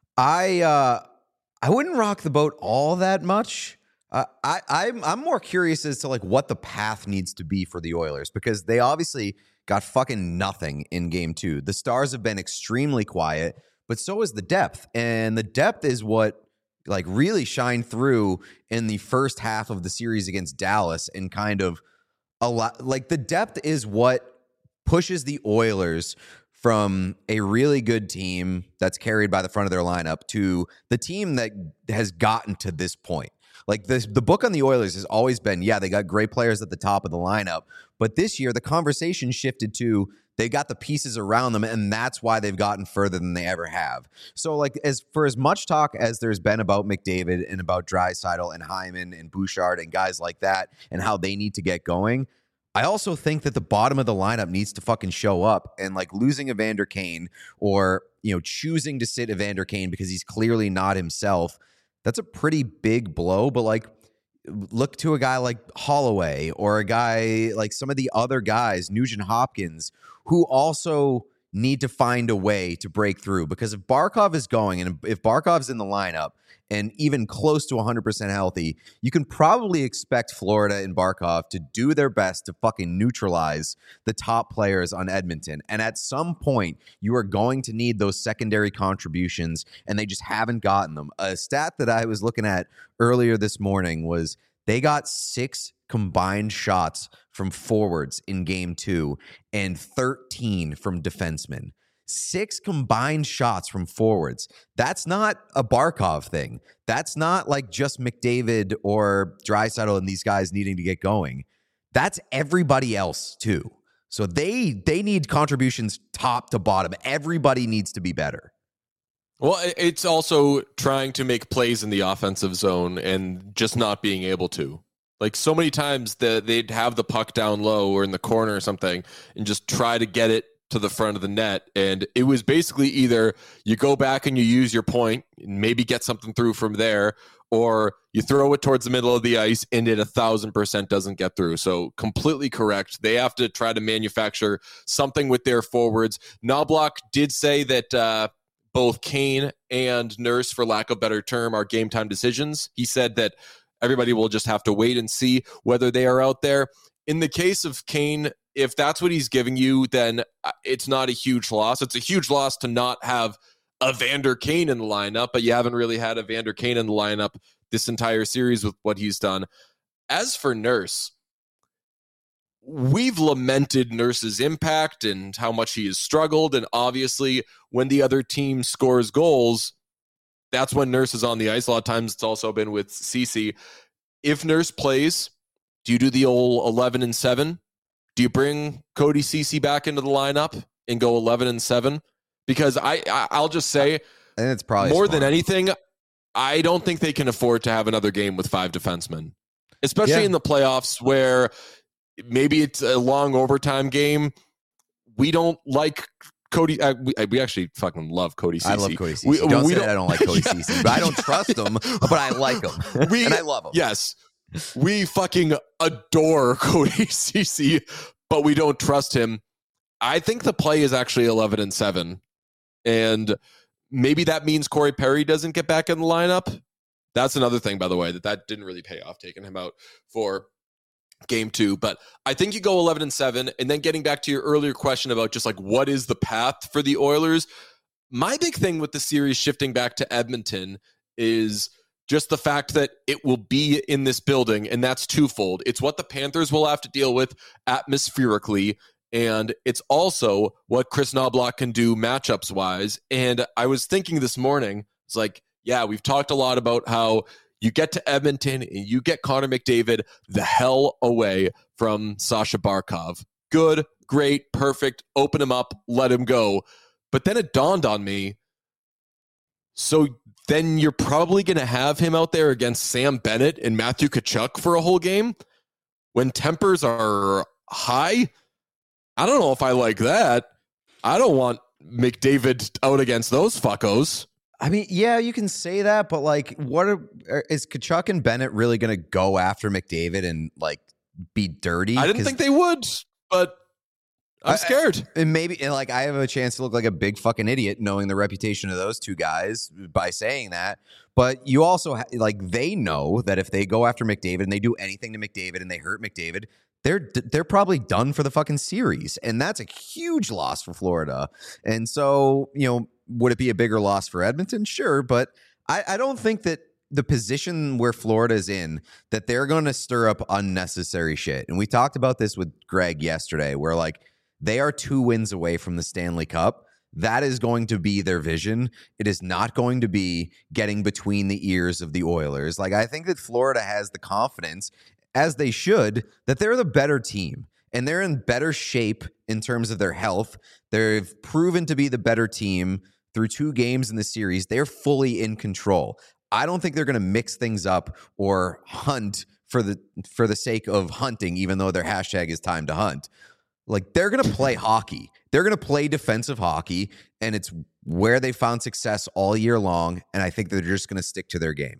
Speaker 2: I uh, I wouldn't rock the boat all that much. Uh, I I'm I'm more curious as to like what the path needs to be for the Oilers because they obviously got fucking nothing in game two. The Stars have been extremely quiet, but so is the depth, and the depth is what like really shined through in the first half of the series against Dallas and kind of. A lot like the depth is what pushes the Oilers from a really good team that's carried by the front of their lineup to the team that has gotten to this point. Like this, the book on the Oilers has always been, yeah, they got great players at the top of the lineup, but this year the conversation shifted to they got the pieces around them, and that's why they've gotten further than they ever have. So, like, as for as much talk as there's been about McDavid and about Draisaitl and Hyman and Bouchard and guys like that and how they need to get going, I also think that the bottom of the lineup needs to fucking show up. And, like, losing Evander Kane or, you know, choosing to sit Evander Kane because he's clearly not himself, that's a pretty big blow. But, like, look to a guy like Holloway or a guy like some of the other guys, Nugent Hopkins, who also need to find a way to break through. Because if Barkov is going and if Barkov's in the lineup and even close to one hundred percent healthy, you can probably expect Florida and Barkov to do their best to fucking neutralize the top players on Edmonton. And at some point, you are going to need those secondary contributions, and they just haven't gotten them. A stat that I was looking at earlier this morning was they got six combined shots from forwards in game two and thirteen from defensemen. Six combined shots from forwards. That's not a Barkov thing. That's not like just McDavid or Draisaitl and these guys needing to get going. That's everybody else too. So they they need contributions top to bottom. Everybody needs to be better.
Speaker 1: Well, it's also trying to make plays in the offensive zone and just not being able to. Like so many times that they'd have the puck down low or in the corner or something and just try to get it to the front of the net. And it was basically either you go back and you use your point and maybe get something through from there, or you throw it towards the middle of the ice and it a thousand percent doesn't get through. So completely correct. They have to try to manufacture something with their forwards. Knobloch did say that uh, both Kane and Nurse, for lack of a better term, are game time decisions. He said that everybody will just have to wait and see whether they are out there. In the case of Kane, if that's what he's giving you, then it's not a huge loss. It's a huge loss to not have a Vander Kane in the lineup, but you haven't really had a Vander Kane in the lineup this entire series with what he's done. As for Nurse, we've lamented Nurse's impact and how much he has struggled. And obviously, when the other team scores goals, that's when Nurse is on the ice. A lot of times it's also been with Ceci. If Nurse plays, do you do the old eleven and seven? Do you bring Cody Ceci back into the lineup and go eleven and seven? Because I, I I'll just say,
Speaker 2: I think it's probably
Speaker 1: more
Speaker 2: smart.
Speaker 1: than anything, I don't think they can afford to have another game with five defensemen, especially
Speaker 2: Yeah.
Speaker 1: in the playoffs where maybe it's a long overtime game. We don't like Cody. Uh, we, we actually fucking love Cody Ceci.
Speaker 2: I love Cody Ceci.
Speaker 1: We,
Speaker 2: don't
Speaker 1: we
Speaker 2: say
Speaker 1: don't,
Speaker 2: that I don't like Cody
Speaker 1: Yeah.
Speaker 2: Ceci, but I don't trust him, but I like him.
Speaker 1: We,
Speaker 2: and I love him.
Speaker 1: Yes. We fucking adore Cody Ceci, but we don't trust him. I think the play is actually eleven and seven. And maybe that means Corey Perry doesn't get back in the lineup. That's another thing, by the way, that that didn't really pay off, taking him out for game two. But I think you go eleven and seven. And then getting back to your earlier question about just like what is the path for the Oilers, my big thing with the series shifting back to Edmonton is just the fact that it will be in this building, and that's twofold. It's what the Panthers will have to deal with atmospherically, and it's also what Chris Knobloch can do matchups-wise. And I was thinking this morning, it's like, yeah, we've talked a lot about how you get to Edmonton and you get Connor McDavid the hell away from Sasha Barkov. Good, great, perfect, open him up, let him go. But then it dawned on me, so then you're probably going to have him out there against Sam Bennett and Matthew Tkachuk for a whole game when tempers are high. I don't know if I like that. I don't want McDavid out against those fuckos.
Speaker 2: I mean, yeah, you can say that, but like, what are, is Tkachuk and Bennett really going to go after McDavid and like be dirty?
Speaker 1: I didn't think they would, but I'm
Speaker 2: I-
Speaker 1: scared.
Speaker 2: And maybe, and like, I have a chance to look like a big fucking idiot knowing the reputation of those two guys by saying that. But you also, ha- like, they know that if they go after McDavid and they do anything to McDavid and they hurt McDavid, they're they're probably done for the fucking series. And that's a huge loss for Florida. And so, you know, would it be a bigger loss for Edmonton? Sure. But I, I don't think that the position where Florida is in, that they're going to stir up unnecessary shit. And we talked about this with Greg yesterday, where like, they are two wins away from the Stanley Cup. That is going to be their vision. It is not going to be getting between the ears of the Oilers. Like, I think that Florida has the confidence, as they should, that they're the better team. And they're in better shape in terms of their health. They've proven to be the better team through two games in the series. They're fully in control. I don't think they're going to mix things up or hunt for the for the sake of hunting, even though their hashtag is time to hunt. Like, they're going to play hockey. They're going to play defensive hockey, and it's where they found success all year long, and I think they're just going to stick to their game.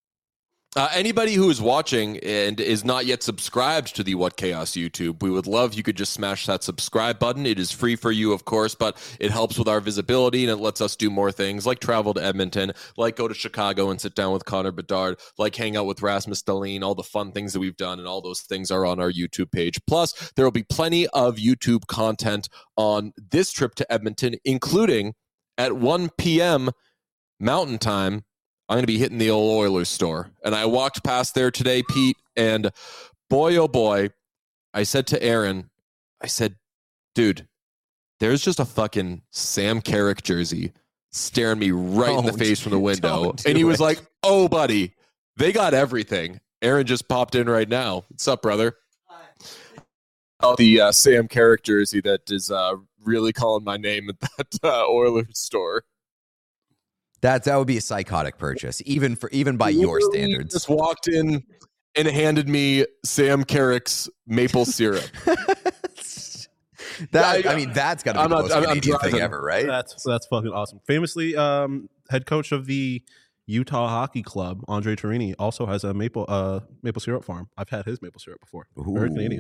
Speaker 1: Uh, anybody who is watching and is not yet subscribed to the What Chaos YouTube, we would love you could just smash that subscribe button. It is free for you, of course, but it helps with our visibility and it lets us do more things like travel to Edmonton, like go to Chicago and sit down with Connor Bedard, like hang out with Rasmus Dahlin, all the fun things that we've done, and all those things are on our YouTube page. Plus, there will be plenty of YouTube content on this trip to Edmonton, including at one p.m. Mountain Time, I'm going to be hitting the old Oilers store. And I walked past there today, Pete, and boy, oh boy, I said to Aaron, I said, dude, there's just a fucking Sam Carrick jersey staring me right
Speaker 2: Don't,
Speaker 1: in the face from the window.
Speaker 2: don't do
Speaker 1: And he was
Speaker 2: it.
Speaker 1: like, oh, buddy, they got everything. Aaron just popped in right now. What's up, brother? Oh, the uh, Sam Carrick jersey that is uh, really calling my name at that uh, Oilers store.
Speaker 2: That that would be a psychotic purchase, even for even by your
Speaker 1: Literally
Speaker 2: standards.
Speaker 1: Just walked in and handed me Sam Carrick's maple syrup.
Speaker 2: That
Speaker 1: Yeah,
Speaker 2: I mean, that's got to be
Speaker 1: I'm
Speaker 2: the
Speaker 1: not-
Speaker 2: most
Speaker 1: I'm- I'm
Speaker 2: Canadian thing
Speaker 1: driving.
Speaker 2: ever, right?
Speaker 3: That's that's fucking awesome. Famously, um, head coach of the Utah Hockey Club, Andre Torini, also has a maple uh maple syrup farm. I've had his maple syrup before. Very
Speaker 2: Ooh.
Speaker 3: Canadian.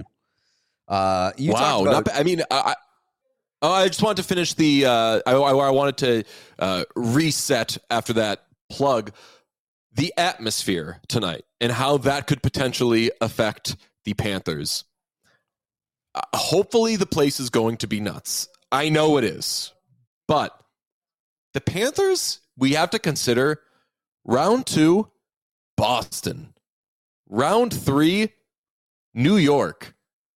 Speaker 2: Uh, you
Speaker 1: wow,
Speaker 2: talked about,
Speaker 1: not ba- I mean, I, I, oh, I just wanted to finish the. Uh, I, I, I wanted to uh, reset after that plug the atmosphere tonight and how that could potentially affect the Panthers. Uh, hopefully, the place is going to be nuts. I know it is, but the Panthers, we have to consider round two, Boston, round three, New York.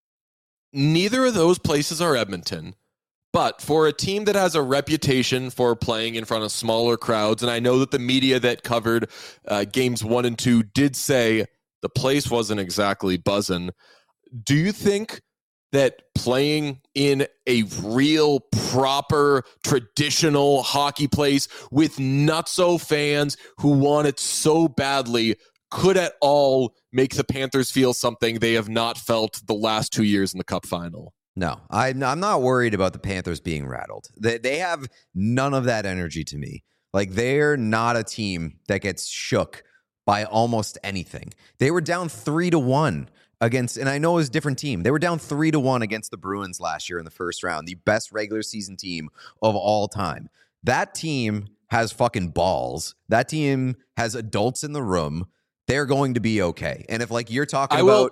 Speaker 1: Neither of those places are Edmonton, but for a team that has a reputation for playing in front of smaller crowds, and I know that the media that covered uh, games one and two did say the place wasn't exactly buzzing. Do you think that playing in a real, proper, traditional hockey place with nutso fans who want it so badly could at all make the Panthers feel something they have not felt the last two years in the Cup final?
Speaker 2: no, I'm I'm not worried about the Panthers being rattled. They they have none of that energy to me. Like, they're not a team that gets shook by almost anything. They were down three to one against, and I know it was a different team. They were down three to one against the Bruins last year in the first round, the best regular season team of all time. That team has fucking balls. That team has adults in the room. They're going to be okay. And if, like, you're talking
Speaker 1: I will-
Speaker 2: about,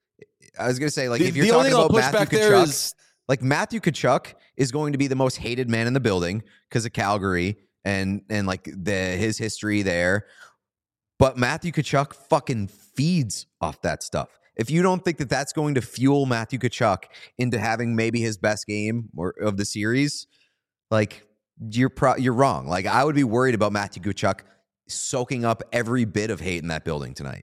Speaker 2: I was going to say, like,
Speaker 1: The,
Speaker 2: if you're
Speaker 1: the only
Speaker 2: talking
Speaker 1: thing I'll
Speaker 2: about
Speaker 1: push
Speaker 2: Matthew
Speaker 1: back there
Speaker 2: Tkachuk,
Speaker 1: is
Speaker 2: like, Matthew Tkachuk is going to be the most hated man in the building because of Calgary and and like the his history there. But Matthew Tkachuk fucking feeds off that stuff. If you don't think that that's going to fuel Matthew Tkachuk into having maybe his best game or of the series, like, you're pro- you're wrong. Like, I would be worried about Matthew Tkachuk soaking up every bit of hate in that building tonight.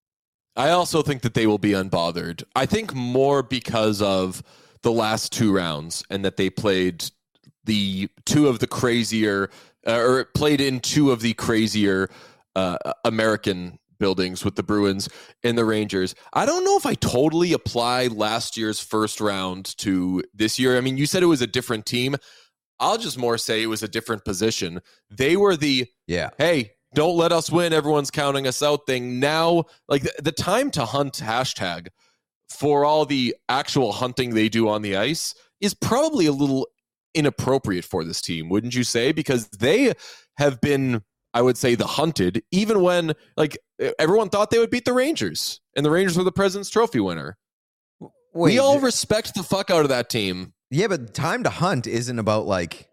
Speaker 1: I also think that they will be unbothered. I think more because of the last two rounds and that they played the two of the crazier, uh, or played in two of the crazier uh, American buildings with the Bruins and the Rangers. I don't know if I totally apply last year's first round to this year. I mean, you said it was a different team. I'll just more say it was a different position. They were the,
Speaker 2: Yeah.
Speaker 1: hey, don't let us win, everyone's counting us out thing. Now, like, the, the time to hunt hashtag for all the actual hunting they do on the ice is probably a little inappropriate for this team, wouldn't you say? Because they have been, I would say, the hunted, even when, like, everyone thought they would beat the Rangers, and the Rangers were the President's Trophy winner.
Speaker 2: Wait,
Speaker 1: we all
Speaker 2: th-
Speaker 1: respect the fuck out of that team.
Speaker 2: yeah, but time to hunt isn't about like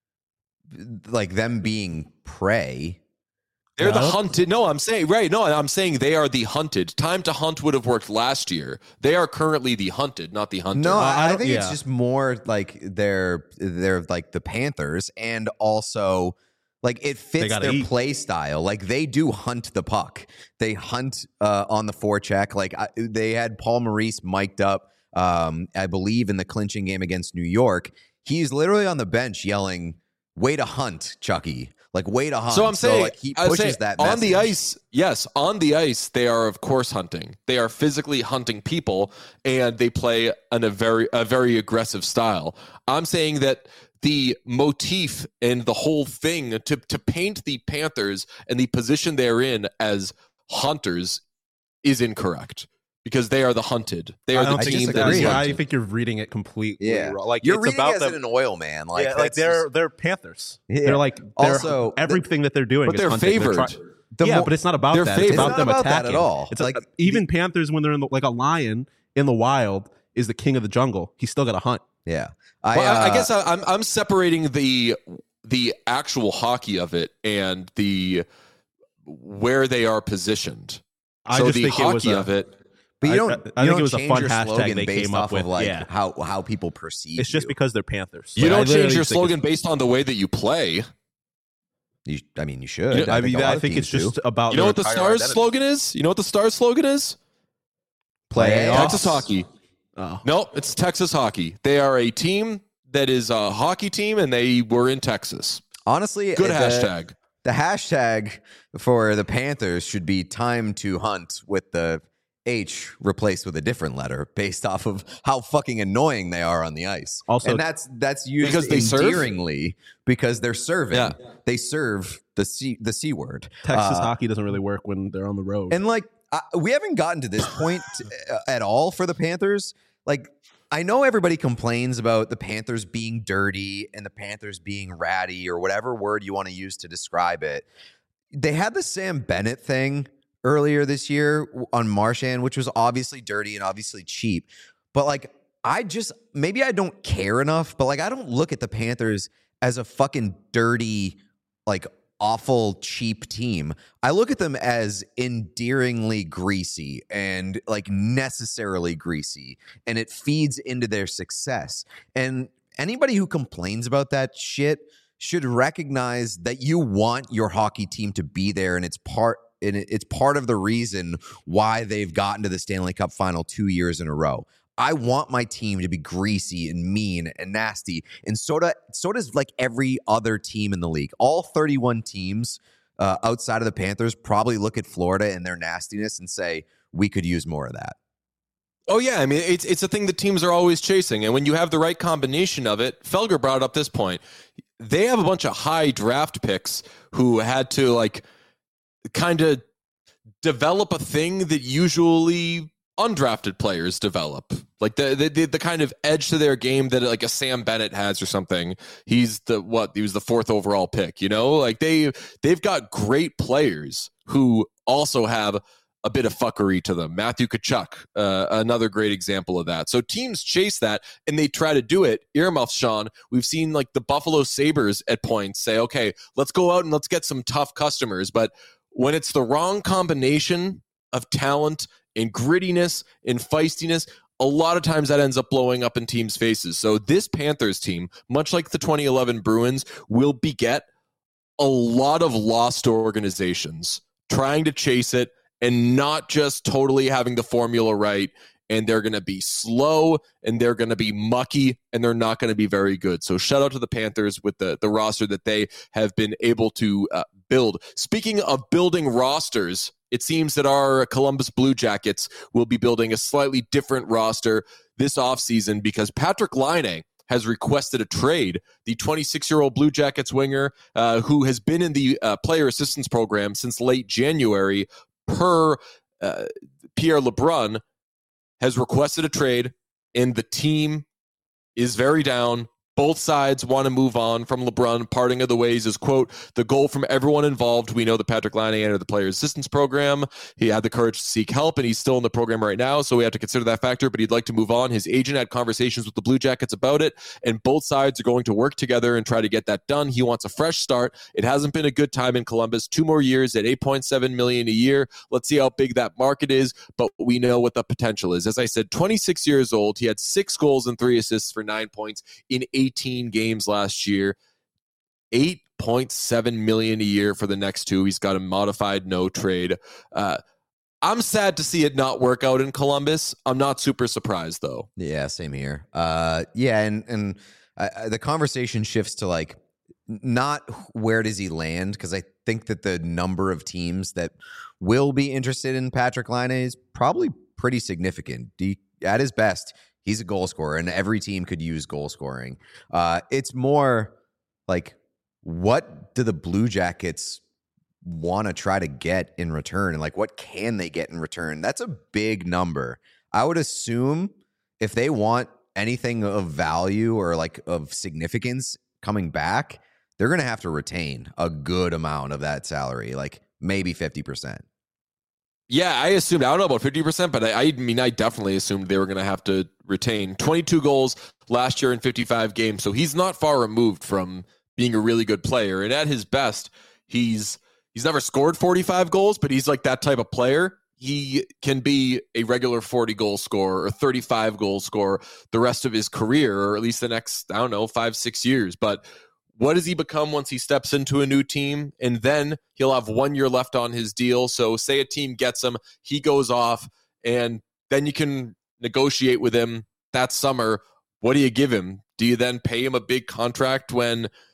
Speaker 2: like them being prey.
Speaker 1: They're the
Speaker 3: No.
Speaker 1: hunted. No, I'm saying, right. No, I'm saying they are the hunted. Time to hunt would have worked last year. They are currently the hunted, not the hunter.
Speaker 2: No,
Speaker 3: I
Speaker 2: I, I
Speaker 3: don't-
Speaker 2: think it's
Speaker 3: yeah.
Speaker 2: just more like they're they're like the Panthers, and also like it fits
Speaker 3: gotta
Speaker 2: their
Speaker 3: eat.
Speaker 2: play style. Like, they do hunt the puck. They hunt uh, on the forecheck. Like, I, they had Paul Maurice mic'd up, um, I believe, in the clinching game against New York. He's literally on the bench yelling, "Way to hunt, Chucky!" Like, way to hunt.
Speaker 1: So I'm saying,
Speaker 2: like, he
Speaker 1: I would
Speaker 2: pushes
Speaker 1: say
Speaker 2: that
Speaker 1: on the
Speaker 2: message.
Speaker 1: ice. Yes, on the ice, they are of course hunting. They are physically hunting people, and they play in a very a very aggressive style. I'm saying that the motif and the whole thing to to paint the Panthers and the position they're in as hunters is incorrect, because they are the hunted. They are
Speaker 3: I
Speaker 1: the
Speaker 3: don't
Speaker 2: I
Speaker 3: think
Speaker 1: team that
Speaker 2: disagree.
Speaker 1: is
Speaker 3: yeah, I
Speaker 1: hunted.
Speaker 3: think you're reading it completely
Speaker 2: Yeah,
Speaker 3: wrong. Like,
Speaker 2: you're
Speaker 3: it's
Speaker 2: reading
Speaker 3: about
Speaker 2: as
Speaker 3: them.
Speaker 2: an oil man. Like,
Speaker 3: yeah, like
Speaker 2: that's
Speaker 3: they're
Speaker 2: just-
Speaker 3: they're Panthers.
Speaker 2: Yeah.
Speaker 3: They're like they're,
Speaker 2: Also,
Speaker 3: everything that they're doing,
Speaker 1: but
Speaker 3: is
Speaker 1: they're
Speaker 3: hunting.
Speaker 1: favored.
Speaker 3: try-
Speaker 2: The
Speaker 3: yeah,
Speaker 2: mo-
Speaker 3: but it's not about
Speaker 1: they're
Speaker 3: that.
Speaker 1: favored.
Speaker 3: It's about
Speaker 2: It's
Speaker 3: them
Speaker 2: not about that
Speaker 3: attacking
Speaker 2: at all.
Speaker 3: It's
Speaker 2: Like,
Speaker 3: like even Panthers when they're in the, like a lion in the wild is the king of the jungle. He's still got to hunt.
Speaker 2: yeah. I,
Speaker 1: Well, I, I
Speaker 2: uh,
Speaker 1: guess I, I'm I'm separating the the actual hockey of it and the where they are positioned.
Speaker 3: I
Speaker 1: so
Speaker 3: just
Speaker 1: the
Speaker 3: think it was
Speaker 1: hockey
Speaker 3: a-
Speaker 1: of it.
Speaker 2: But you
Speaker 3: I-
Speaker 2: don't.
Speaker 3: I- I
Speaker 2: you
Speaker 3: think
Speaker 2: don't
Speaker 3: it was a
Speaker 2: change
Speaker 3: fun
Speaker 2: your
Speaker 3: hashtag
Speaker 2: slogan
Speaker 3: they
Speaker 2: based
Speaker 3: came up
Speaker 2: off
Speaker 3: with,
Speaker 2: of like
Speaker 3: yeah.
Speaker 2: how how people perceive.
Speaker 3: It's just
Speaker 2: you.
Speaker 3: because they're Panthers.
Speaker 1: You
Speaker 3: Like, I
Speaker 1: don't change
Speaker 3: literally
Speaker 1: your
Speaker 3: just think it's-
Speaker 1: slogan based on the way that you play.
Speaker 2: You, I mean, you should.
Speaker 1: You know,
Speaker 3: I
Speaker 2: think
Speaker 3: mean,
Speaker 2: a lot
Speaker 3: I
Speaker 2: of
Speaker 3: think it's
Speaker 2: teams do.
Speaker 3: just about
Speaker 1: You know
Speaker 3: their
Speaker 1: what the
Speaker 3: entire
Speaker 1: Stars
Speaker 3: identity.
Speaker 1: slogan is? You know what the Stars slogan is?
Speaker 2: Playoffs.
Speaker 1: Texas hockey.
Speaker 3: Oh.
Speaker 1: No, it's Texas hockey. They are a team that is a hockey team, and they were in Texas.
Speaker 2: Honestly,
Speaker 1: Good
Speaker 2: the,
Speaker 1: hashtag.
Speaker 2: the hashtag for the Panthers should be time to hunt with the H replaced with a different letter based off of how fucking annoying they are on the ice.
Speaker 3: Also,
Speaker 2: and that's that's used
Speaker 1: because they
Speaker 2: endearingly serve? because they're serving.
Speaker 1: Yeah.
Speaker 2: They serve the C the C word.
Speaker 3: Texas
Speaker 2: Uh,
Speaker 3: hockey doesn't really work when they're on the road.
Speaker 2: And like I, we haven't gotten to this point at all for the Panthers. Like I know everybody complains about the Panthers being dirty and the Panthers being ratty or whatever word you want to use to describe it. They had the Sam Bennett thing earlier this year on Marchand, which was obviously dirty and obviously cheap. But like, I just, maybe I don't care enough, but like, I don't look at the Panthers as a fucking dirty, like awful, cheap team. I look at them as endearingly greasy and like necessarily greasy, and it feeds into their success. And anybody who complains about that shit should recognize that you want your hockey team to be there, and it's part and it's part of the reason why they've gotten to the Stanley Cup final two years in a row. I want my team to be greasy and mean and nasty, and so, do, so does like every other team in the league. All thirty-one teams uh, outside of the Panthers probably look at Florida and their nastiness and say, we could use more of that.
Speaker 1: Oh, yeah. I mean, it's it's a thing that teams are always chasing. And when you have the right combination of it, Felger brought up this point. They have a bunch of high draft picks who had to like kind of develop a thing that usually undrafted players develop, like the, the the kind of edge to their game that like a Sam Bennett has or something. He's the what he was the fourth overall pick, you know, like they they've got great players who also have a bit of fuckery to them. Matthew Tkachuk, uh, another great example of that. So teams chase that and they try to do it. Earmuffs, Sean. We've seen like the Buffalo Sabres at points say, okay, let's go out and let's get some tough customers. But when it's the wrong combination of talent and grittiness and feistiness, a lot of times that ends up blowing up in teams' faces. So this Panthers team, much like the twenty eleven Bruins, will beget a lot of lost organizations trying to chase it and not just totally having the formula right. And they're going to be slow and they're going to be mucky and they're not going to be very good. So shout out to the Panthers with the, the roster that they have been able to uh, build. Speaking of building rosters, it seems that our Columbus Blue Jackets will be building a slightly different roster this offseason because Patrick Laine has requested a trade. The twenty-six-year-old Blue Jackets winger uh, who has been in the uh, player assistance program since late January per uh, Pierre LeBrun has requested a trade, and the team is very down. Both sides want to move on from LeBrun. Parting of the ways is, quote, the goal from everyone involved. We know that Patrick Laine entered the player assistance program. He had the courage to seek help, and he's still in the program right now, so we have to consider that factor, but he'd like to move on. His agent had conversations with the Blue Jackets about it, and both sides are going to work together and try to get that done. He wants a fresh start. It hasn't been a good time in Columbus. Two more years at eight point seven million dollars a year. Let's see how big that market is, but we know what the potential is. As I said, twenty-six years old. He had six goals and three assists for nine points in eighteen games last year. eight point seven million dollars a year for the next two. He's got a modified no trade. Uh, I'm sad to see it not work out in Columbus. I'm not super surprised though.
Speaker 2: Yeah, same here. Uh, yeah, and and uh, the conversation shifts to like not where does he land, because I think that the number of teams that will be interested in Patrick Laine is probably pretty significant. He, at his best, he's a goal scorer, and every team could use goal scoring. Uh, it's more like, what do the Blue Jackets want to try to get in return? And like, what can they get in return? That's a big number. I would assume if they want anything of value or like of significance coming back, they're going to have to retain a good amount of that salary, like maybe fifty percent.
Speaker 1: Yeah, I assumed, I don't know about fifty percent, but I, I mean, I definitely assumed they were going to have to retain. twenty-two goals last year in fifty-five games, so he's not far removed from being a really good player. And at his best, he's he's never scored forty-five goals, but he's like that type of player. He can be a regular forty-goal scorer or thirty-five goal scorer the rest of his career, or at least the next, I don't know, five, six years. But what does he become once he steps into a new team? And then he'll have one year left on his deal. So say a team gets him, he goes off, and then you can negotiate with him that summer. What do you give him? Do you then pay him a big contract when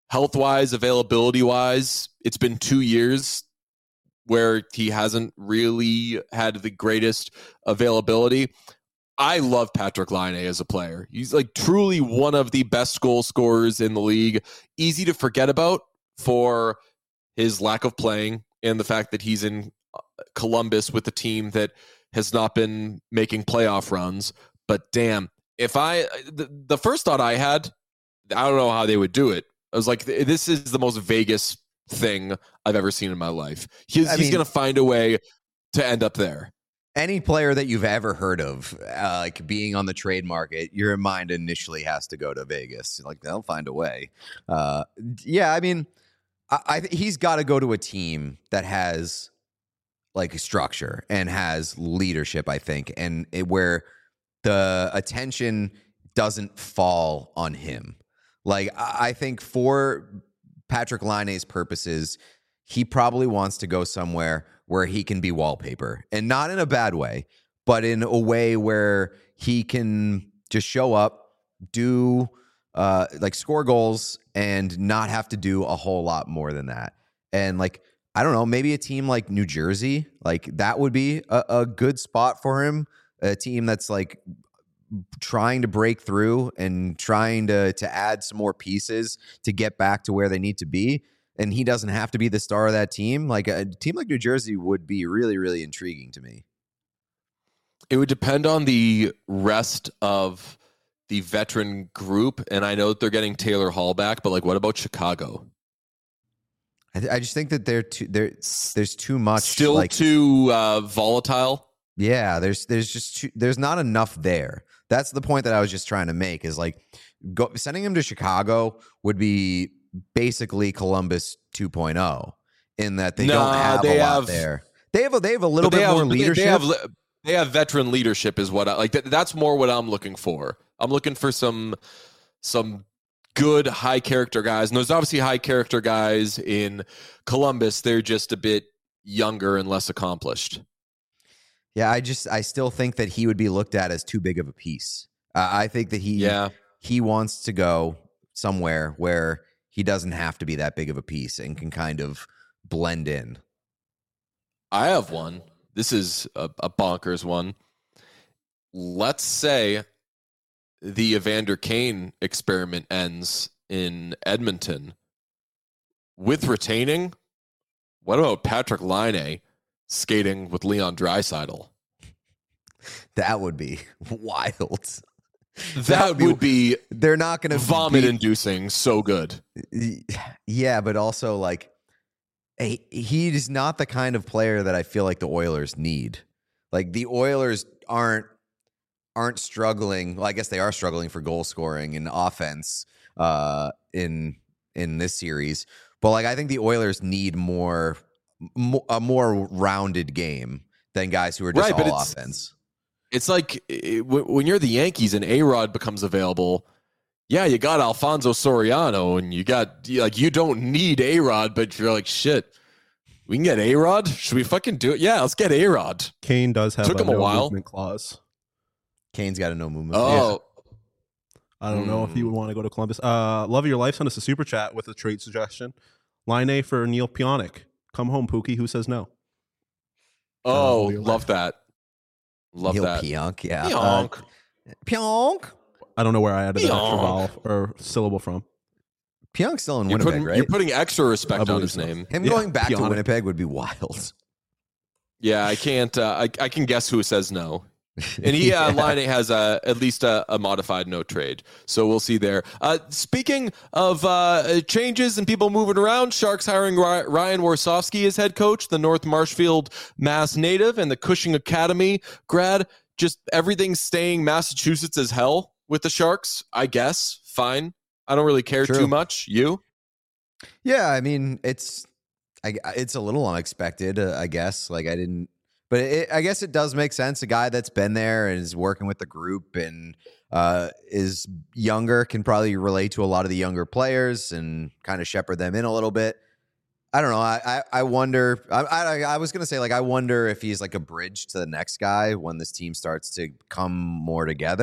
Speaker 1: health-wise, availability-wise, it's been two years where he hasn't really had the greatest availability. I love Patrik Laine as a player. He's like truly one of the best goal scorers in the league. Easy to forget about for his lack of playing and the fact that he's in Columbus with a team that has not been making playoff runs. But damn, if I, the, the first thought I had, I don't know how they would do it. I was like, this is the most Vegas thing I've ever seen in my life. He's, he's going to find a way to end up there.
Speaker 2: Any player that you've ever heard of, uh, like being on the trade market, your mind initially has to go to Vegas. Like they'll find a way. Uh, yeah, I mean, I, I he's got to go to a team that has like structure and has leadership. I think, and it, where the attention doesn't fall on him. Like I, I think for Patrik Laine's purposes, he probably wants to go somewhere where he can be wallpaper, and not in a bad way, but in a way where he can just show up, do uh, like score goals, and not have to do a whole lot more than that. And like, I don't know, maybe a team like New Jersey, like that would be a, a good spot for him. A team that's like trying to break through and trying to to add some more pieces to get back to where they need to be. And he doesn't have to be the star of that team. Like a team like New Jersey would be really, really intriguing to me.
Speaker 1: It would depend on the rest of the veteran group. And I know that they're getting Taylor Hall back, but like, what about Chicago?
Speaker 2: I, th- I just think that they're too, they're, there's too much.
Speaker 1: Still
Speaker 2: like,
Speaker 1: too uh, volatile.
Speaker 2: Yeah, there's there's just too, there's not enough there. That's the point that I was just trying to make. Is like go, sending him to Chicago would be basically Columbus two point oh in that they
Speaker 1: nah,
Speaker 2: don't have
Speaker 1: they
Speaker 2: a lot
Speaker 1: have,
Speaker 2: there. They have a, they have a little
Speaker 1: bit
Speaker 2: bit
Speaker 1: have,
Speaker 2: more leadership.
Speaker 1: They have, they have veteran leadership is what I like. That, that's more what I'm looking for. I'm looking for some some good high character guys. And there's obviously high character guys in Columbus. They're just a bit younger and less accomplished.
Speaker 2: Yeah, I just I still think that he would be looked at as too big of a piece. Uh, I think that he
Speaker 1: yeah.
Speaker 2: he wants to go somewhere where he doesn't have to be that big of a piece and can kind of blend in.
Speaker 1: I have one. This is a, a bonkers one. Let's say the Evander Kane experiment ends in Edmonton with retaining. What about Patrik Laine skating with Leon Draisaitl?
Speaker 2: That would be wild.
Speaker 1: That, that would, be, would be.
Speaker 2: They're not going to
Speaker 1: vomit-inducing. So good.
Speaker 2: Yeah, but also like, he, he's not the kind of player that I feel like the Oilers need. Like the Oilers aren't aren't struggling. Well, I guess they are struggling for goal scoring and offense uh, in in this series. But like, I think the Oilers need more. a more rounded game than guys who are just
Speaker 1: right,
Speaker 2: all
Speaker 1: it's,
Speaker 2: offense.
Speaker 1: It's like it, when you're the Yankees and A-Rod becomes available, yeah, you got Alfonso Soriano and you got like you don't need A-Rod, but you're like, shit, we can get A-Rod? Should we fucking do it? Yeah, let's get A-Rod.
Speaker 3: Kane does have
Speaker 1: Took
Speaker 3: a
Speaker 1: him a
Speaker 3: no
Speaker 1: while.
Speaker 3: movement clause.
Speaker 2: Kane's got a no movement.
Speaker 1: Oh.
Speaker 3: Yeah. I don't mm. know if he would want to go to Columbus. Uh, Love of Your Life sent us a super chat with a trade suggestion. Laine for Neil Pionk. Come home, Pookie. Who says no?
Speaker 1: Oh, uh, love that. Love
Speaker 2: Neil
Speaker 1: that.
Speaker 2: Pionk, yeah.
Speaker 1: Pionk.
Speaker 2: Uh, Pionk.
Speaker 3: I don't know where I added
Speaker 1: Pionk.
Speaker 3: that extra vowel or syllable from.
Speaker 2: Pionk's still in
Speaker 1: you're
Speaker 2: Winnipeg,
Speaker 1: putting,
Speaker 2: right?
Speaker 1: You're putting extra respect on his
Speaker 3: so.
Speaker 1: name.
Speaker 2: Him
Speaker 3: yeah,
Speaker 2: going back
Speaker 3: Pionk.
Speaker 2: to Winnipeg would be wild.
Speaker 1: Yeah, I can't. Uh, I, I can guess who says no. And he, uh,
Speaker 2: yeah.
Speaker 1: Laine has a, at least a, a modified no trade. So we'll see there. Uh, speaking of uh, changes and people moving around, Sharks hiring Ryan Warsofsky as head coach, the North Marshfield, Mass native, and the Cushing Academy grad. Just everything staying Massachusetts as hell with the Sharks, I guess. Fine. I don't really care
Speaker 2: True.
Speaker 1: too much. You?
Speaker 2: Yeah, I mean, it's I, it's a little unexpected, uh, I guess. Like, I didn't. But it, I guess it does make sense. A guy that's been there and is working with the group and uh, is younger can probably relate to a lot of the younger players and kind of shepherd them in a little bit. I don't know. I I, I wonder. I, I I was gonna say like I wonder if he's like a bridge to the next guy when this team starts to come more together.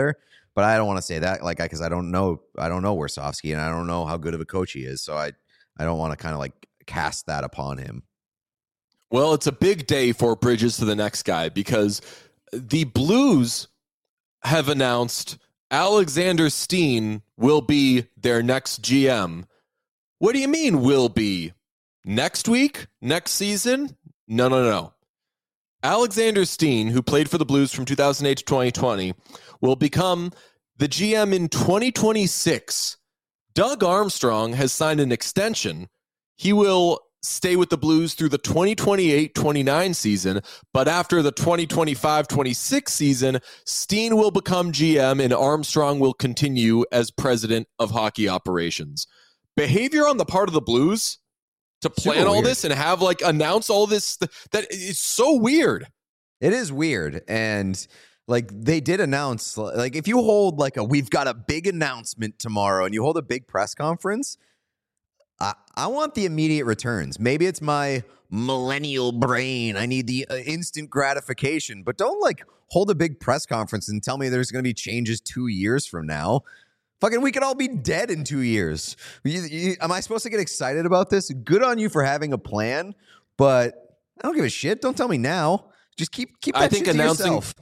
Speaker 2: But I don't want to say that like because I, I don't know I don't know Warsofsky and I don't know how good of a coach he is. So I I don't want to kind of like cast that upon him.
Speaker 1: Well, it's a big day for Bridges to the next guy because the Blues have announced Alexander Steen will be their next G M. What do you mean will be? Next week? Next season? No, no, no. Alexander Steen, who played for the Blues from two thousand eight to twenty twenty, will become the G M in twenty twenty-six. Doug Armstrong has signed an extension. He will stay with the Blues through the twenty twenty-eight twenty-nine season, but after the twenty twenty-five twenty-six season, Steen will become G M and Armstrong will continue as president of hockey operations. Behavior on the part of the Blues to plan
Speaker 2: Super
Speaker 1: all
Speaker 2: weird.
Speaker 1: this and have like announce all this, that is so weird.
Speaker 2: It is weird. And like they did announce, like if you hold like a, we've got a big announcement tomorrow and you hold a big press conference, I, I want the immediate returns. Maybe it's my millennial brain. I need the uh, instant gratification, but don't like hold a big press conference and tell me there's going to be changes two years from now. Fucking, we could all be dead in two years. You, you, am I supposed to get excited about this? Good on you for having a plan, but I don't give a shit. Don't tell me now. Just keep keep that
Speaker 1: I think
Speaker 2: shit to
Speaker 1: announcing-
Speaker 2: yourself.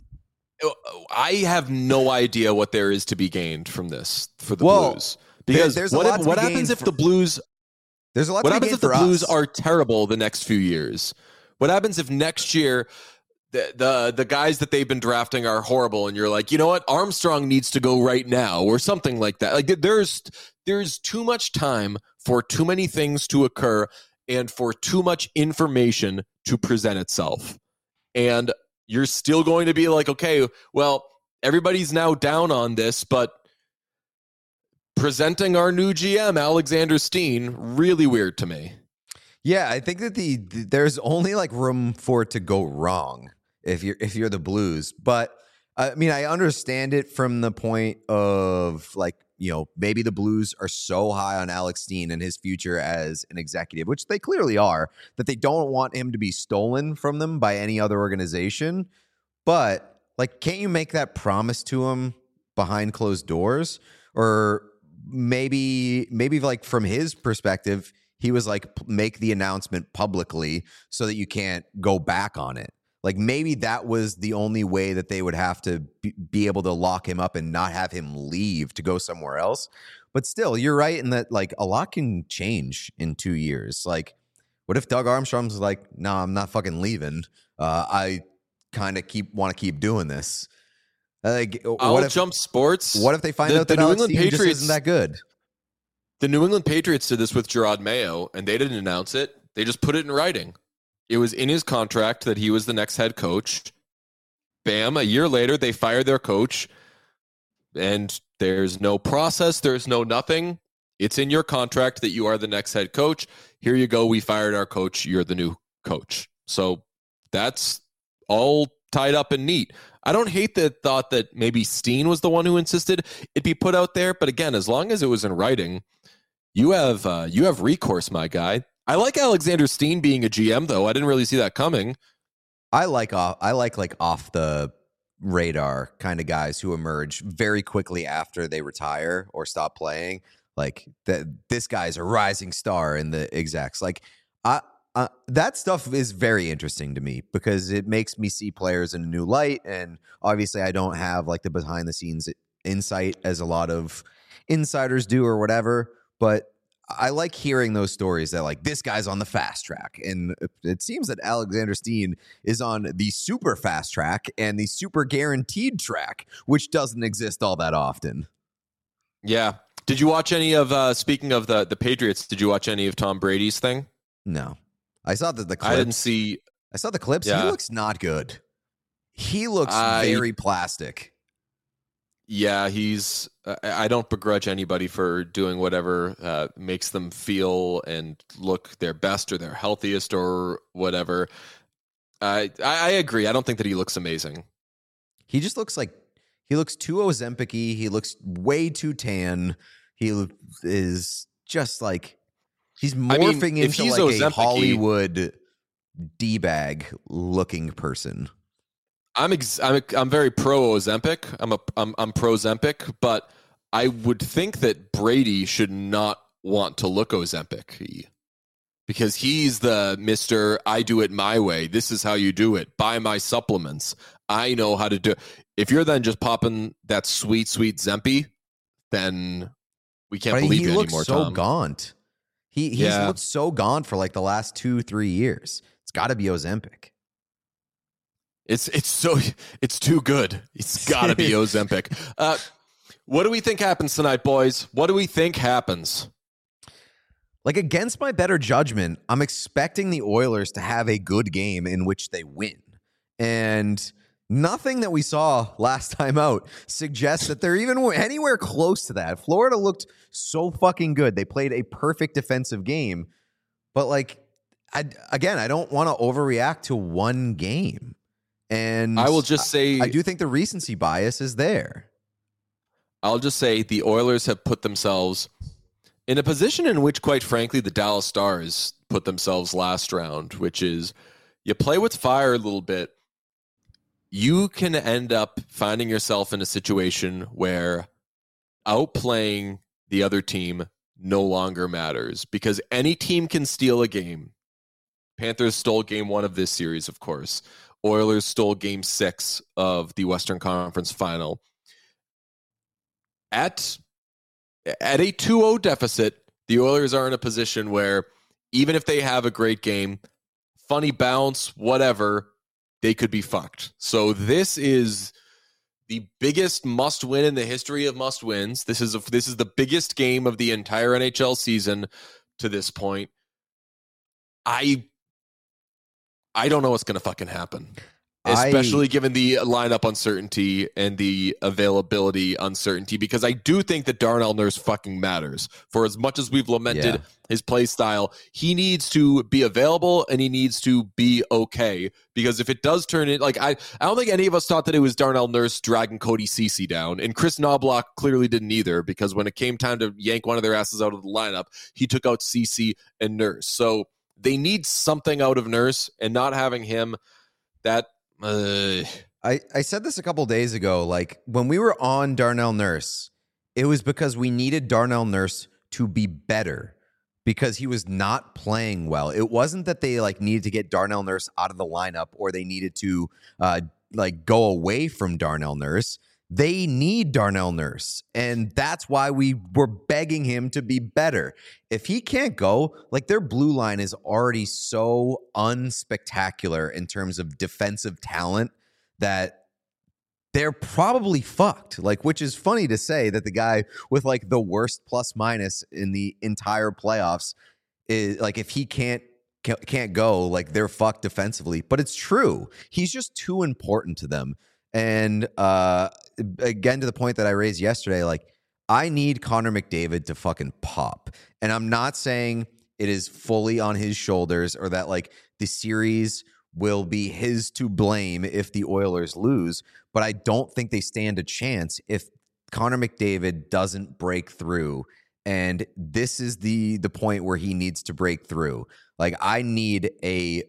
Speaker 1: I have no idea what there is to be gained from this for the
Speaker 2: Well,
Speaker 1: Blues. Because
Speaker 2: there's a
Speaker 1: what,
Speaker 2: lot
Speaker 1: if,
Speaker 2: to
Speaker 1: what
Speaker 2: be
Speaker 1: happens
Speaker 2: gained
Speaker 1: if
Speaker 2: for-
Speaker 1: the Blues
Speaker 2: There's a lot
Speaker 1: What
Speaker 2: to
Speaker 1: happens
Speaker 2: be
Speaker 1: if
Speaker 2: gained
Speaker 1: the
Speaker 2: for
Speaker 1: Blues
Speaker 2: us.
Speaker 1: are terrible the next few years? What happens if next year the, the the guys that they've been drafting are horrible and you're like, you know what, Armstrong needs to go right now or something like that? Like there's there's too much time for too many things to occur and for too much information to present itself. And you're still going to be like, okay, well, everybody's now down on this, but presenting our new G M, Alexander Steen, really weird to me.
Speaker 2: Yeah, I think that the, the there's only like room for it to go wrong if you're if you're the Blues. But I mean, I understand it from the point of like, you know, maybe the Blues are so high on Alex Steen and his future as an executive, which they clearly are, that they don't want him to be stolen from them by any other organization. But like, can't you make that promise to him behind closed doors? Or maybe maybe like from his perspective, he was like, make the announcement publicly so that you can't go back on it. Like maybe that was the only way that they would have to be, be able to lock him up and not have him leave to go somewhere else. But still, you're right in that like a lot can change in two years. Like, what if Doug Armstrong's like, no, nah, I'm not fucking leaving. Uh, I kind of keep want to keep doing this. Like,
Speaker 1: I'll
Speaker 2: what if,
Speaker 1: jump sports.
Speaker 2: What if they find
Speaker 1: The-
Speaker 2: out
Speaker 1: the
Speaker 2: that
Speaker 1: New
Speaker 2: Alex
Speaker 1: England
Speaker 2: Steen just
Speaker 1: Patriots-
Speaker 2: isn't that good?
Speaker 1: The New England Patriots did this with Gerard Mayo, and they didn't announce it. They just put it in writing. It was in his contract that he was the next head coach. Bam, a year later, they fired their coach, and there's no process. There's no nothing. It's in your contract that you are the next head coach. Here you go. We fired our coach. You're the new coach. So that's all tied up and neat. I don't hate the thought that maybe Steen was the one who insisted it be put out there. But again, as long as it was in writing, you have uh, you have recourse, my guy. I like Alexander Steen being a G M, though. I didn't really see that coming.
Speaker 2: I like off, I like like off the radar kind of guys who emerge very quickly after they retire or stop playing. Like that, this guy's a rising star in the execs. Like I, uh, that stuff is very interesting to me because it makes me see players in a new light. And obviously, I don't have like the behind the scenes insight as a lot of insiders do or whatever. But I like hearing those stories that like this guy's on the fast track. And it seems that Alexander Steen is on the super fast track and the super guaranteed track, which doesn't exist all that often.
Speaker 1: Yeah. Did you watch any of, uh, speaking of the, the Patriots, did you watch any of Tom Brady's thing?
Speaker 2: No. I saw the, the clips.
Speaker 1: I didn't see.
Speaker 2: I saw the clips.
Speaker 1: Yeah.
Speaker 2: He looks not good. He looks
Speaker 1: I-
Speaker 2: very plastic.
Speaker 1: Yeah, he's. Uh, I don't begrudge anybody for doing whatever uh, makes them feel and look their best or their healthiest or whatever. I I agree. I don't think that he looks amazing.
Speaker 2: He just looks like he looks too Ozempic-y. He looks way too tan. He lo- is just like he's
Speaker 1: I mean,
Speaker 2: morphing
Speaker 1: if
Speaker 2: into
Speaker 1: he's
Speaker 2: like a
Speaker 1: Ozempic-y-
Speaker 2: Hollywood D-bag looking person.
Speaker 1: I'm ex- I'm I'm very pro Ozempic. I'm a I'm I'm pro Ozempic, but I would think that Brady should not want to look Ozempic because he's the Mister I do it my way. This is how you do it. Buy my supplements. I know how to do. If you're then just popping that sweet sweet Zempi, then we can't
Speaker 2: but
Speaker 1: believe
Speaker 2: he
Speaker 1: you
Speaker 2: looks
Speaker 1: anymore.
Speaker 2: so
Speaker 1: Tom.
Speaker 2: gaunt. He he's
Speaker 1: Yeah.
Speaker 2: looked so gaunt for like the last two three years. It's got to be Ozempic.
Speaker 1: It's it's so it's too good. It's got to be Ozempic. Uh, what do we think happens tonight, boys? What do we think happens?
Speaker 2: Like, against my better judgment, I'm expecting the Oilers to have a good game in which they win. And nothing that we saw last time out suggests that they're even anywhere close to that. Florida looked so fucking good. They played a perfect defensive game. But, like, I, again, I don't want to overreact to one game. And
Speaker 1: I will just say,
Speaker 2: I, I do think the recency bias is there.
Speaker 1: I'll just say the Oilers have put themselves in a position in which, quite frankly, the Dallas Stars put themselves last round, which is you play with fire a little bit. You can end up finding yourself in a situation where outplaying the other team no longer matters because any team can steal a game. Panthers stole game one of this series, of course. Oilers stole game six of the Western Conference Final. At, at a two oh deficit, the Oilers are in a position where even if they have a great game, funny bounce, whatever, they could be fucked. So this is the biggest must-win in the history of must-wins. This is a, this is the biggest game of the entire N H L season to this point. I I don't know what's going to fucking happen, especially
Speaker 2: I,
Speaker 1: given the lineup uncertainty and the availability uncertainty, because I do think that Darnell Nurse fucking matters. For as much as we've lamented
Speaker 2: Yeah.
Speaker 1: his play style, he needs to be available and he needs to be okay, because if it does turn in, like, I, I don't think any of us thought that it was Darnell Nurse dragging Cody Ceci down, and Chris Knobloch clearly didn't either, because when it came time to yank one of their asses out of the lineup, he took out Ceci and Nurse. So they need something out of Nurse, and not having him, that uh,
Speaker 2: I, I said this a couple days ago. Like, when we were on Darnell Nurse, it was because we needed Darnell Nurse to be better because he was not playing well. It wasn't that they like needed to get Darnell Nurse out of the lineup or they needed to uh, like go away from Darnell Nurse. They need Darnell Nurse, and that's why we were begging him to be better. If he can't go, like, their blue line is already so unspectacular in terms of defensive talent that they're probably fucked. Like, which is funny to say that the guy with like the worst plus minus in the entire playoffs is like, if he can't can't go, like, they're fucked defensively. But it's true. He's just too important to them. And uh, again, to the point that I raised yesterday, like, I need Connor McDavid to fucking pop. And I'm not saying it is fully on his shoulders or that like the series will be his to blame if the Oilers lose, but I don't think they stand a chance if Connor McDavid doesn't break through. And this is the the point where he needs to break through. Like, I need a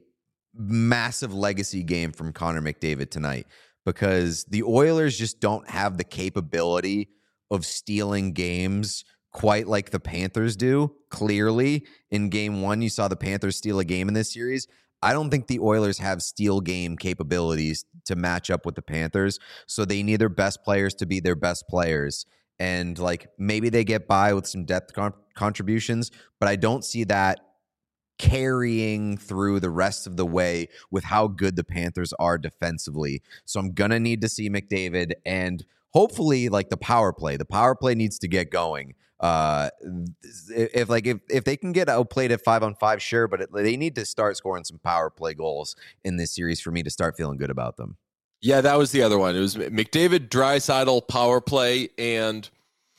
Speaker 2: massive legacy game from Connor McDavid tonight, because the Oilers just don't have the capability of stealing games quite like the Panthers do. Clearly, in game one, you saw the Panthers steal a game in this series. I don't think the Oilers have steal game capabilities to match up with the Panthers, so they need their best players to be their best players. And, like, maybe they get by with some depth con- contributions, but I don't see that carrying through the rest of the way with how good the Panthers are defensively. So I'm going to need to see McDavid and hopefully like the power play. The power play needs to get going. Uh, if like if, if they can get outplayed at five on five, sure, but it, they need to start scoring some power play goals in this series for me to start feeling good about them.
Speaker 1: Yeah, that was the other one. It was McDavid, Draisaitl power play, and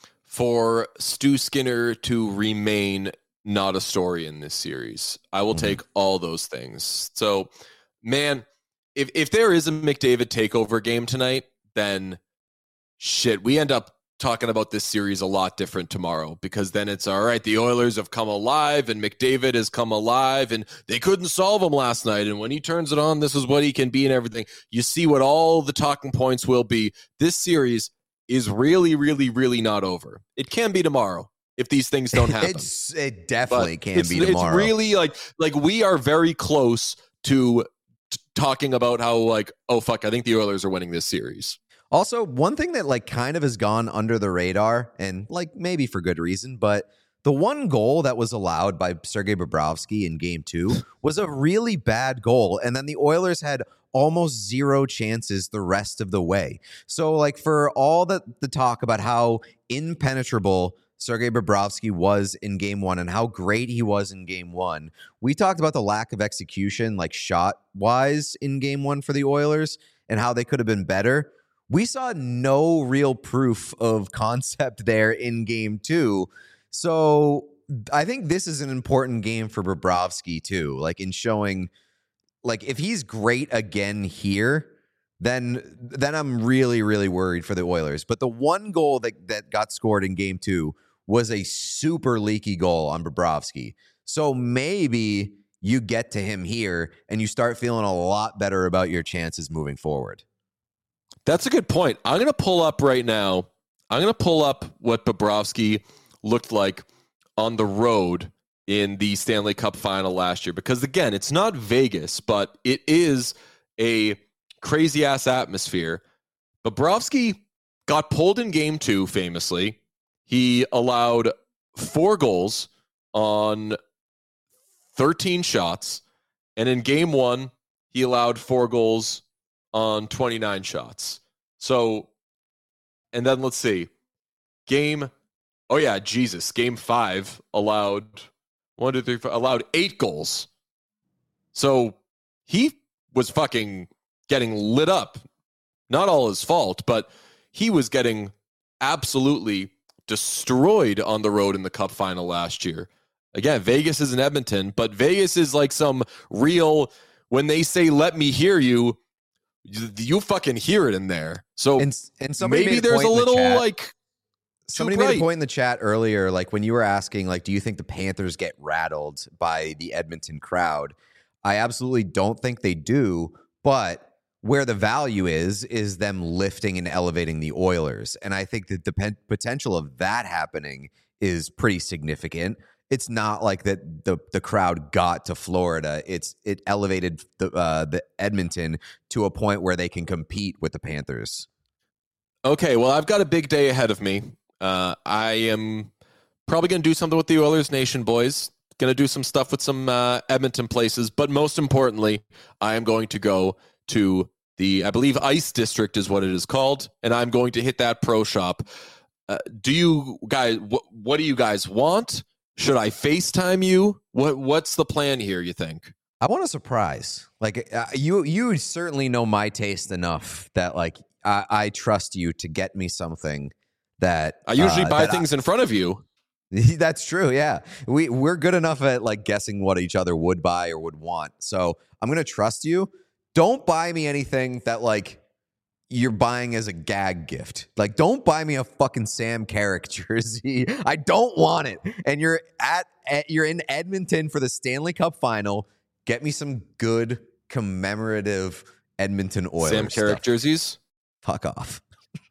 Speaker 1: for Stu Skinner to remain not a story in this series. I will mm-hmm. take all those things. So, man, if if there is a McDavid takeover game tonight, then shit, we end up talking about this series a lot different tomorrow, because then it's all right, the Oilers have come alive and McDavid has come alive and they couldn't solve him last night. And when he turns it on, this is what he can be and everything. You see what all the talking points will be. This series is really, really, really not over. It can be tomorrow if these things don't happen.
Speaker 2: It's, it definitely
Speaker 1: But
Speaker 2: can
Speaker 1: it's,
Speaker 2: be tomorrow.
Speaker 1: It's really like, like we are very close to t- talking about how like, oh, fuck, I think the Oilers are winning this series.
Speaker 2: Also, one thing that like kind of has gone under the radar, and like maybe for good reason, but the one goal that was allowed by Sergei Bobrovsky in game two was a really bad goal. And then the Oilers had almost zero chances the rest of the way. So like for all the, the talk about how impenetrable Sergei Bobrovsky was in game one and how great he was in game one, we talked about the lack of execution, like shot wise in game one for the Oilers and how they could have been better. We saw no real proof of concept there in game two. So I think this is an important game for Bobrovsky too, like in showing, like if he's great again here, then then I'm really, really worried for the Oilers. But the one goal that, that got scored in game two was a super leaky goal on Bobrovsky. So maybe you get to him here and you start feeling a lot better about your chances moving forward.
Speaker 1: That's a good point. I'm going to pull up right now. I'm going to pull up what Bobrovsky looked like on the road in the Stanley Cup final last year. Because, again, it's not Vegas, but it is a crazy-ass atmosphere. Bobrovsky got pulled in game two, famously. He allowed four goals on thirteen shots. And in game one, he allowed four goals on twenty-nine shots. So, and then let's see. Game, oh yeah, Jesus. Game five allowed one, two, three, four, allowed eight goals. So he was fucking getting lit up. Not all his fault, but he was getting absolutely destroyed on the road in the Cup final last year. Again, Vegas is in Edmonton, but Vegas is like some real, when they say, let me hear you, you, you fucking hear it in there. So
Speaker 2: and, and somebody
Speaker 1: maybe
Speaker 2: made a
Speaker 1: there's
Speaker 2: point
Speaker 1: a
Speaker 2: in the
Speaker 1: little
Speaker 2: chat.
Speaker 1: like,
Speaker 2: Somebody made a point in the chat earlier, like when you were asking, like, do you think the Panthers get rattled by the Edmonton crowd? I absolutely don't think they do, but where the value is, is them lifting and elevating the Oilers. And I think that the pen- potential of that happening is pretty significant. It's not like that the, the crowd got to Florida. It's it elevated the uh, the Edmonton to a point where they can compete with the Panthers.
Speaker 1: Okay, well, I've got a big day ahead of me. Uh, I am probably going to do something with the Oilers Nation boys. Going to do some stuff with some uh, Edmonton places. But most importantly, I am going to go to the, I believe, Ice District is what it is called. And I'm going to hit that pro shop. Uh, do you guys, wh- what do you guys want? Should I FaceTime you? What What's the plan here, you think?
Speaker 2: I want a surprise. Like uh, you, you certainly know my taste enough that like I, I trust you to get me something that
Speaker 1: I usually
Speaker 2: uh,
Speaker 1: buy
Speaker 2: that
Speaker 1: things
Speaker 2: I,
Speaker 1: in front of you.
Speaker 2: That's true. Yeah, we we're good enough at like guessing what each other would buy or would want. So I'm gonna trust you. Don't buy me anything that like you're buying as a gag gift. Like, don't buy me a fucking Sam Carrick jersey. I don't want it. And you're at, at you're in Edmonton for the Stanley Cup final. Get me some good commemorative Edmonton Oilers
Speaker 1: Sam Carrick
Speaker 2: stuff.
Speaker 1: jerseys.
Speaker 2: Fuck off.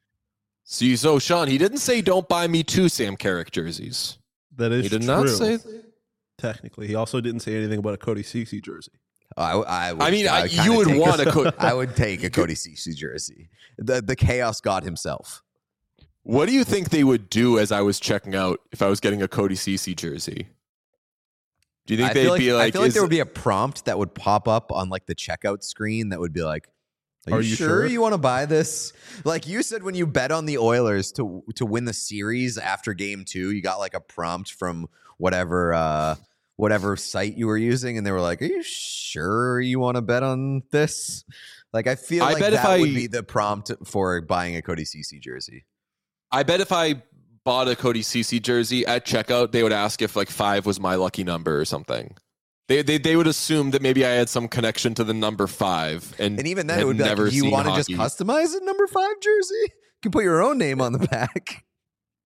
Speaker 1: See, so Sean, he didn't say don't buy me two Sam Carrick jerseys.
Speaker 3: That is
Speaker 1: He did
Speaker 3: true.
Speaker 1: not say.
Speaker 3: Technically, he also didn't say anything about a Cody Ceci jersey.
Speaker 2: I, I, would,
Speaker 1: I mean, I,
Speaker 2: would
Speaker 1: you
Speaker 2: kinda
Speaker 1: would
Speaker 2: take
Speaker 1: want
Speaker 2: a,
Speaker 1: a. Co-
Speaker 2: I would take a Cody Ceci jersey. The the Chaos God himself.
Speaker 1: What do you think they would do as I was checking out if I was getting a Cody Ceci jersey? Do you think
Speaker 2: I
Speaker 1: they'd
Speaker 2: feel like,
Speaker 1: be like?
Speaker 2: I feel like
Speaker 1: is-
Speaker 2: there would be a prompt that would pop up on like the checkout screen that would be like, Are,
Speaker 3: Are
Speaker 2: you,
Speaker 3: you
Speaker 2: sure,
Speaker 3: sure?
Speaker 2: you want to buy this? Like you said, when you bet on the Oilers to to win the series after game two, you got like a prompt from whatever uh, whatever site you were using, and they were like, "Are you sure you want to bet on this?" Like I feel
Speaker 1: I
Speaker 2: like
Speaker 1: bet
Speaker 2: that
Speaker 1: if I-
Speaker 2: would be the prompt for buying a Cody Ceci jersey.
Speaker 1: I bet if I bought a Cody Ceci jersey at checkout, they would ask if like five was my lucky number or something. They they they would assume that maybe I had some connection to the number five, and
Speaker 2: And even then,
Speaker 1: had
Speaker 2: it would be like,
Speaker 1: never
Speaker 2: "Do you
Speaker 1: seen
Speaker 2: want to just
Speaker 1: hockey.
Speaker 2: customize a number five jersey? You can put your own name on the back."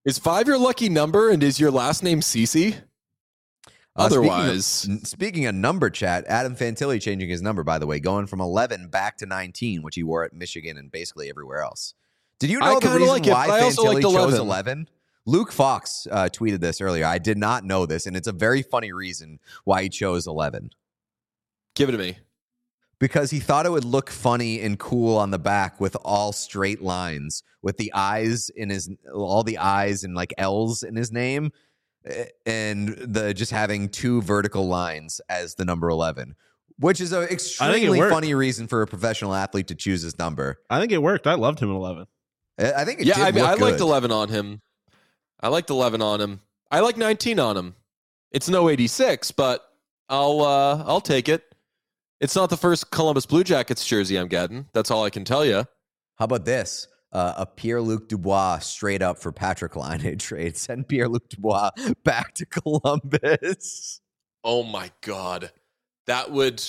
Speaker 1: Is five your lucky number, and is your last name Cece?
Speaker 2: Uh,
Speaker 1: Otherwise,
Speaker 2: speaking of, speaking of number chat, Adam Fantilli changing his number, by the way, going from eleven back to nineteen, which he wore at Michigan and basically everywhere else. Did you know
Speaker 1: I
Speaker 2: the
Speaker 1: kinda
Speaker 2: reason
Speaker 1: like it,
Speaker 2: why
Speaker 1: but I also
Speaker 2: Fantilli
Speaker 1: liked
Speaker 2: chose
Speaker 1: eleven.
Speaker 2: eleven? Luke Fox uh, tweeted this earlier. I did not know this, and it's a very funny reason why he chose eleven.
Speaker 1: give it to me.
Speaker 2: Because he thought it would look funny and cool on the back with all straight lines, with the eyes in his, all the eyes and like L's in his name, eh, and the just having two vertical lines as the number eleven, which is an extremely
Speaker 3: worked.
Speaker 2: funny reason for a professional athlete to choose his number.
Speaker 3: I think it worked. I loved him at eleven.
Speaker 2: I I think it
Speaker 1: Yeah,
Speaker 2: did
Speaker 1: I mean,
Speaker 2: look
Speaker 1: I liked
Speaker 2: good.
Speaker 1: eleven on him. I liked eleven on him. I like nineteen on him. It's no eighty-six, but I'll uh, I'll take it. It's not the first Columbus Blue Jackets jersey I'm getting. That's all I can tell you.
Speaker 2: How about this? Uh, a Pierre-Luc Dubois straight up for Patrick Laine trade. Send Pierre-Luc Dubois back to Columbus.
Speaker 1: Oh my God. That would.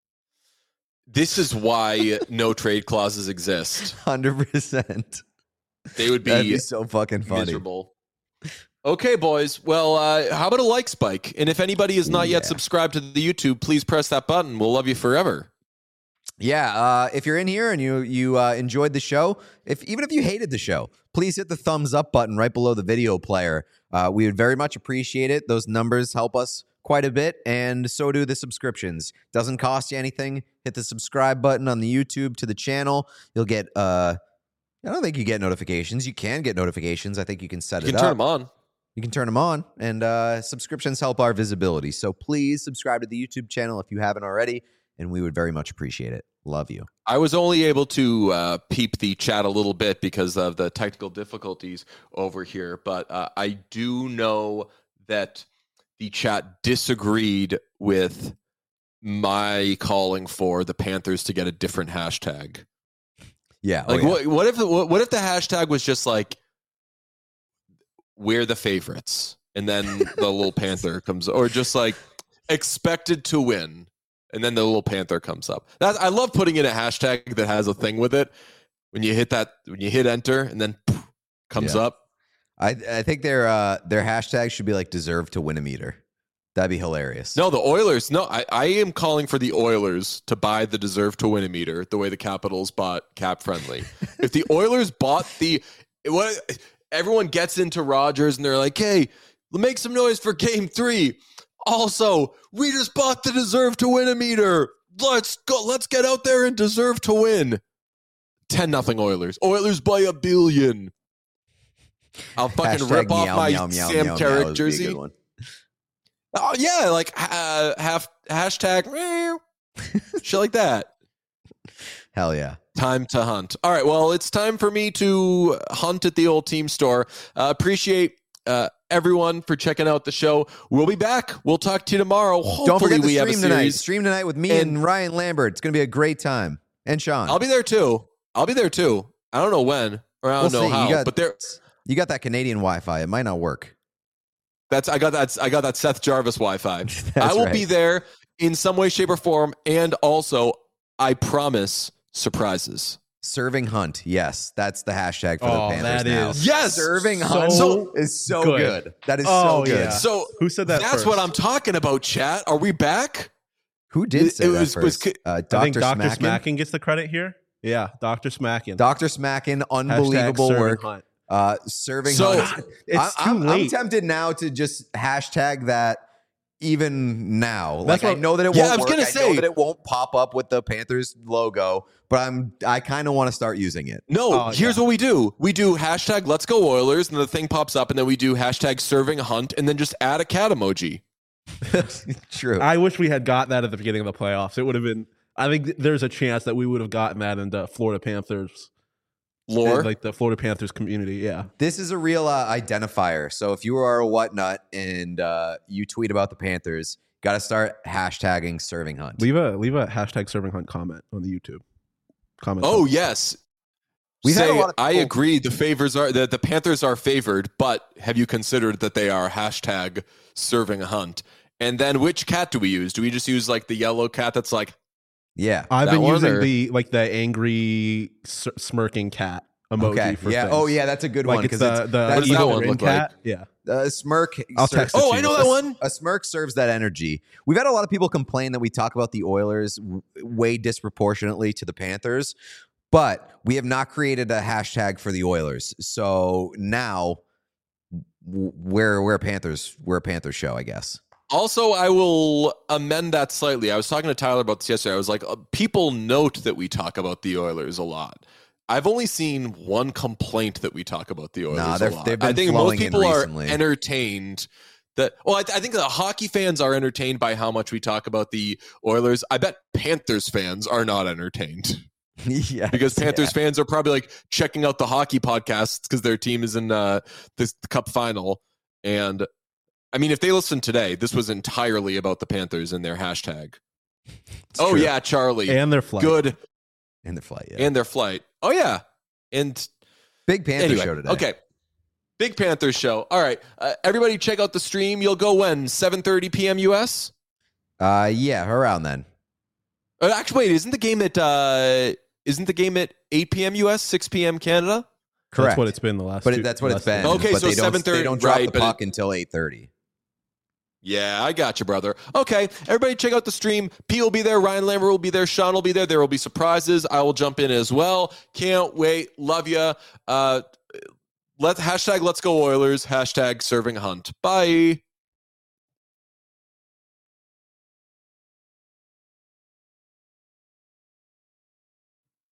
Speaker 1: This is why no trade clauses exist.
Speaker 2: one hundred percent.
Speaker 1: They would be,
Speaker 2: That'd be so fucking funny.
Speaker 1: miserable. Okay, boys. Well, uh, how about a like spike? And if anybody is not yet
Speaker 2: Yeah.
Speaker 1: subscribed to the YouTube, please press that button. We'll love you forever.
Speaker 2: Yeah, uh, if you're in here and you you uh, enjoyed the show, if even if you hated the show, please hit the thumbs up button right below the video player. Uh, we would very much appreciate it. Those numbers help us quite a bit, and so do the subscriptions. Doesn't cost you anything. Hit the subscribe button on the YouTube to the channel. You'll get. Uh, I don't think you get notifications. You can get notifications. I think you can set
Speaker 1: You
Speaker 2: it
Speaker 1: can
Speaker 2: up.
Speaker 1: turn them on.
Speaker 2: You can turn them on, and uh, subscriptions help our visibility. So please subscribe to the YouTube channel if you haven't already, and we would very much appreciate it. Love you.
Speaker 1: I was only able to uh, peep the chat a little bit because of the technical difficulties over here, but uh, I do know that the chat disagreed with my calling for the Panthers to get a different hashtag.
Speaker 2: Yeah. oh
Speaker 1: Like,
Speaker 2: yeah.
Speaker 1: what, what if what, what if the hashtag was just like "We're the favorites" and then the little panther comes, or just like "expected to win" and then the little panther comes up. That I love putting in a hashtag that has a thing with it. When you hit that, when you hit enter and then poof, comes
Speaker 2: Yeah.
Speaker 1: up.
Speaker 2: I I think their uh, their hashtag should be like "deserve to win a meter." That'd be hilarious.
Speaker 1: No, the Oilers. No, I, I am calling for the Oilers to buy the deserve to win a meter the way the Capitals bought Cap Friendly. If the Oilers bought the what, everyone gets into Rogers and they're like, "Hey, make some noise for Game Three." Also, we just bought the deserve to win a meter. Let's go. Let's get out there and deserve to win. Ten nothing Oilers. Oilers by a billion. I'll fucking
Speaker 2: Hashtag
Speaker 1: rip off
Speaker 2: meow,
Speaker 1: my
Speaker 2: meow, meow,
Speaker 1: Sam
Speaker 2: meow, meow
Speaker 1: Carrick
Speaker 2: would be a
Speaker 1: jersey.
Speaker 2: good one.
Speaker 1: Oh yeah, like uh, half hashtag meow, shit like that.
Speaker 2: Hell yeah.
Speaker 1: Time to hunt. All right, well, it's time for me to hunt at the old team store. Uh, appreciate uh, everyone for checking out the show. We'll be back. We'll talk to you tomorrow. Hopefully,
Speaker 2: Don't forget to
Speaker 1: we have a
Speaker 2: stream tonight.
Speaker 1: series.
Speaker 2: Stream tonight with me and,
Speaker 1: And-
Speaker 2: Ryan Lambert. It's gonna be a great time. And Sean.
Speaker 1: I'll be there too. I'll be there too. I don't know when or I don't
Speaker 2: We'll
Speaker 1: know
Speaker 2: see.
Speaker 1: how,
Speaker 2: You got,
Speaker 1: but there.
Speaker 2: you got that Canadian Wi-Fi. It might not work.
Speaker 1: That's I got that. I got that Seth Jarvis Wi-Fi.
Speaker 2: That's
Speaker 1: I will
Speaker 2: right.
Speaker 1: be there in some way, shape, or form, and also I promise surprises.
Speaker 2: Serving Hunt. Yes, that's the hashtag for
Speaker 3: Oh,
Speaker 2: the Panthers
Speaker 3: that
Speaker 2: now.
Speaker 3: is
Speaker 1: Yes!
Speaker 2: Serving
Speaker 3: so
Speaker 2: Hunt
Speaker 1: So
Speaker 2: is so
Speaker 3: good.
Speaker 2: good. That is
Speaker 3: Oh,
Speaker 2: so good.
Speaker 3: yeah.
Speaker 1: So
Speaker 3: Who said that?
Speaker 1: that's
Speaker 3: first?
Speaker 1: what I'm talking about, chat. Are we back?
Speaker 2: Who did
Speaker 1: It-
Speaker 2: say
Speaker 1: it
Speaker 2: that
Speaker 1: was- was
Speaker 2: first?
Speaker 1: ki-
Speaker 2: uh,
Speaker 3: I
Speaker 2: Doctor
Speaker 3: think Doctor
Speaker 2: Smackin.
Speaker 3: Smackin gets the credit here. Yeah, Doctor Smackin.
Speaker 2: Doctor Smackin,
Speaker 3: Hashtag
Speaker 2: unbelievable
Speaker 3: serving
Speaker 2: work.
Speaker 3: Hunt.
Speaker 2: Uh, serving
Speaker 1: So-
Speaker 2: Hunt.
Speaker 3: It's
Speaker 2: I,
Speaker 3: too
Speaker 2: I'm, I'm
Speaker 3: late.
Speaker 2: tempted now to just hashtag that even now.
Speaker 3: That's
Speaker 2: Like I
Speaker 3: what-
Speaker 2: know that it
Speaker 1: Yeah,
Speaker 2: won't
Speaker 1: I was
Speaker 2: work.
Speaker 1: gonna
Speaker 2: I
Speaker 1: say-
Speaker 2: know that it won't pop up with the Panthers logo, but I'm I kind of want to start using it.
Speaker 1: No,
Speaker 3: Oh,
Speaker 1: here's
Speaker 3: yeah.
Speaker 1: what we do. We do hashtag Let's Go Oilers, and the thing pops up, and then we do hashtag Serving Hunt, and then just add a cat emoji.
Speaker 2: True.
Speaker 3: I wish we had got that at the beginning of the playoffs. It would have been. I think th- there's a chance that we would have gotten that in the Florida Panthers,
Speaker 1: Lore.
Speaker 3: like the Florida Panthers community. Yeah,
Speaker 2: This is a real uh, identifier. So if you are a whatnut and uh, you tweet about the Panthers, got to start hashtagging Serving Hunt.
Speaker 3: leave a leave a hashtag Serving Hunt comment on the YouTube. Comment.
Speaker 1: Oh
Speaker 3: section.
Speaker 1: yes.
Speaker 2: We've had
Speaker 1: Say,
Speaker 2: a lot of
Speaker 1: I
Speaker 2: people-
Speaker 1: agree. The favors are the, the Panthers are favored, but have you considered that they are hashtag Serving Hunt? And then which cat do we use? Do we just use like the yellow cat that's like
Speaker 2: Yeah.
Speaker 3: I've
Speaker 1: that
Speaker 3: been
Speaker 1: one,
Speaker 3: using
Speaker 1: or-
Speaker 3: the like the angry s- smirking cat emoji
Speaker 2: Okay.
Speaker 3: for
Speaker 2: Yeah.
Speaker 3: things.
Speaker 2: Oh, yeah. That's a good
Speaker 3: like
Speaker 2: one
Speaker 3: it's
Speaker 2: because
Speaker 3: the,
Speaker 2: it's,
Speaker 3: the
Speaker 1: What does that
Speaker 3: evil
Speaker 1: one
Speaker 3: grin
Speaker 1: look like?
Speaker 3: cat. Yeah,
Speaker 2: a smirk.
Speaker 3: I'll
Speaker 2: serves-
Speaker 3: text it
Speaker 1: Oh,
Speaker 3: to
Speaker 1: I
Speaker 3: you.
Speaker 1: know that one.
Speaker 2: A smirk serves that energy. We've had a lot of people complain that we talk about the Oilers w- way disproportionately to the Panthers, but we have not created a hashtag for the Oilers. So now w- we're we're a Panthers we're a Panthers show, I guess.
Speaker 1: Also, I will amend that slightly. I was talking to Tyler about this yesterday. I was like, uh, people note that we talk about the Oilers a lot. I've only seen one complaint that we talk about the Oilers
Speaker 2: Nah,
Speaker 1: a
Speaker 2: they're-
Speaker 1: lot.
Speaker 2: they've been
Speaker 1: I think
Speaker 2: flowing
Speaker 1: most
Speaker 2: in
Speaker 1: people are
Speaker 2: recently.
Speaker 1: entertained. That well, I, th- I think the hockey fans are entertained by how much we talk about the Oilers. I bet Panthers fans are not entertained
Speaker 2: Yeah,
Speaker 1: because Panthers fans are probably like checking out the hockey podcasts because their team is in uh, this the Cup final. And I mean, if they listened today, this was entirely about the Panthers and their hashtag. Oh
Speaker 2: true.
Speaker 1: yeah, Charlie,
Speaker 3: and their flight.
Speaker 1: good,
Speaker 2: in the flight. Yeah,
Speaker 1: and their flight. Oh yeah, and
Speaker 2: big Panther
Speaker 1: anyway,
Speaker 2: show today.
Speaker 1: okay. Big Panthers show. All right, uh, everybody, check out the stream. You'll go when seven thirty p.m. U S.
Speaker 2: Uh, yeah, around then.
Speaker 1: Uh, actually, wait, isn't the game at uh, isn't the game at eight p.m. U S, six p.m. Canada?
Speaker 2: Correct.
Speaker 3: That's what it's been the last.
Speaker 2: But
Speaker 3: two,
Speaker 2: it, that's what
Speaker 3: last
Speaker 2: it's been.
Speaker 3: two-
Speaker 1: Okay,
Speaker 2: but
Speaker 1: so
Speaker 2: they don't,
Speaker 1: seven thirty
Speaker 2: They don't drop
Speaker 1: right,
Speaker 2: the
Speaker 1: but
Speaker 2: puck
Speaker 1: it-
Speaker 2: until eight thirty.
Speaker 1: Yeah, I got you, brother. Okay, everybody check out the stream. P will be there. Ryan Lambert will be there. Sean will be there. There will be surprises. I will jump in as well. Can't wait. Love you. Uh, let hashtag Let's Go Oilers. Hashtag Serving Hunt. Bye.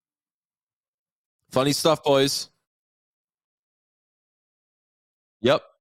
Speaker 1: Funny stuff, boys. Yep.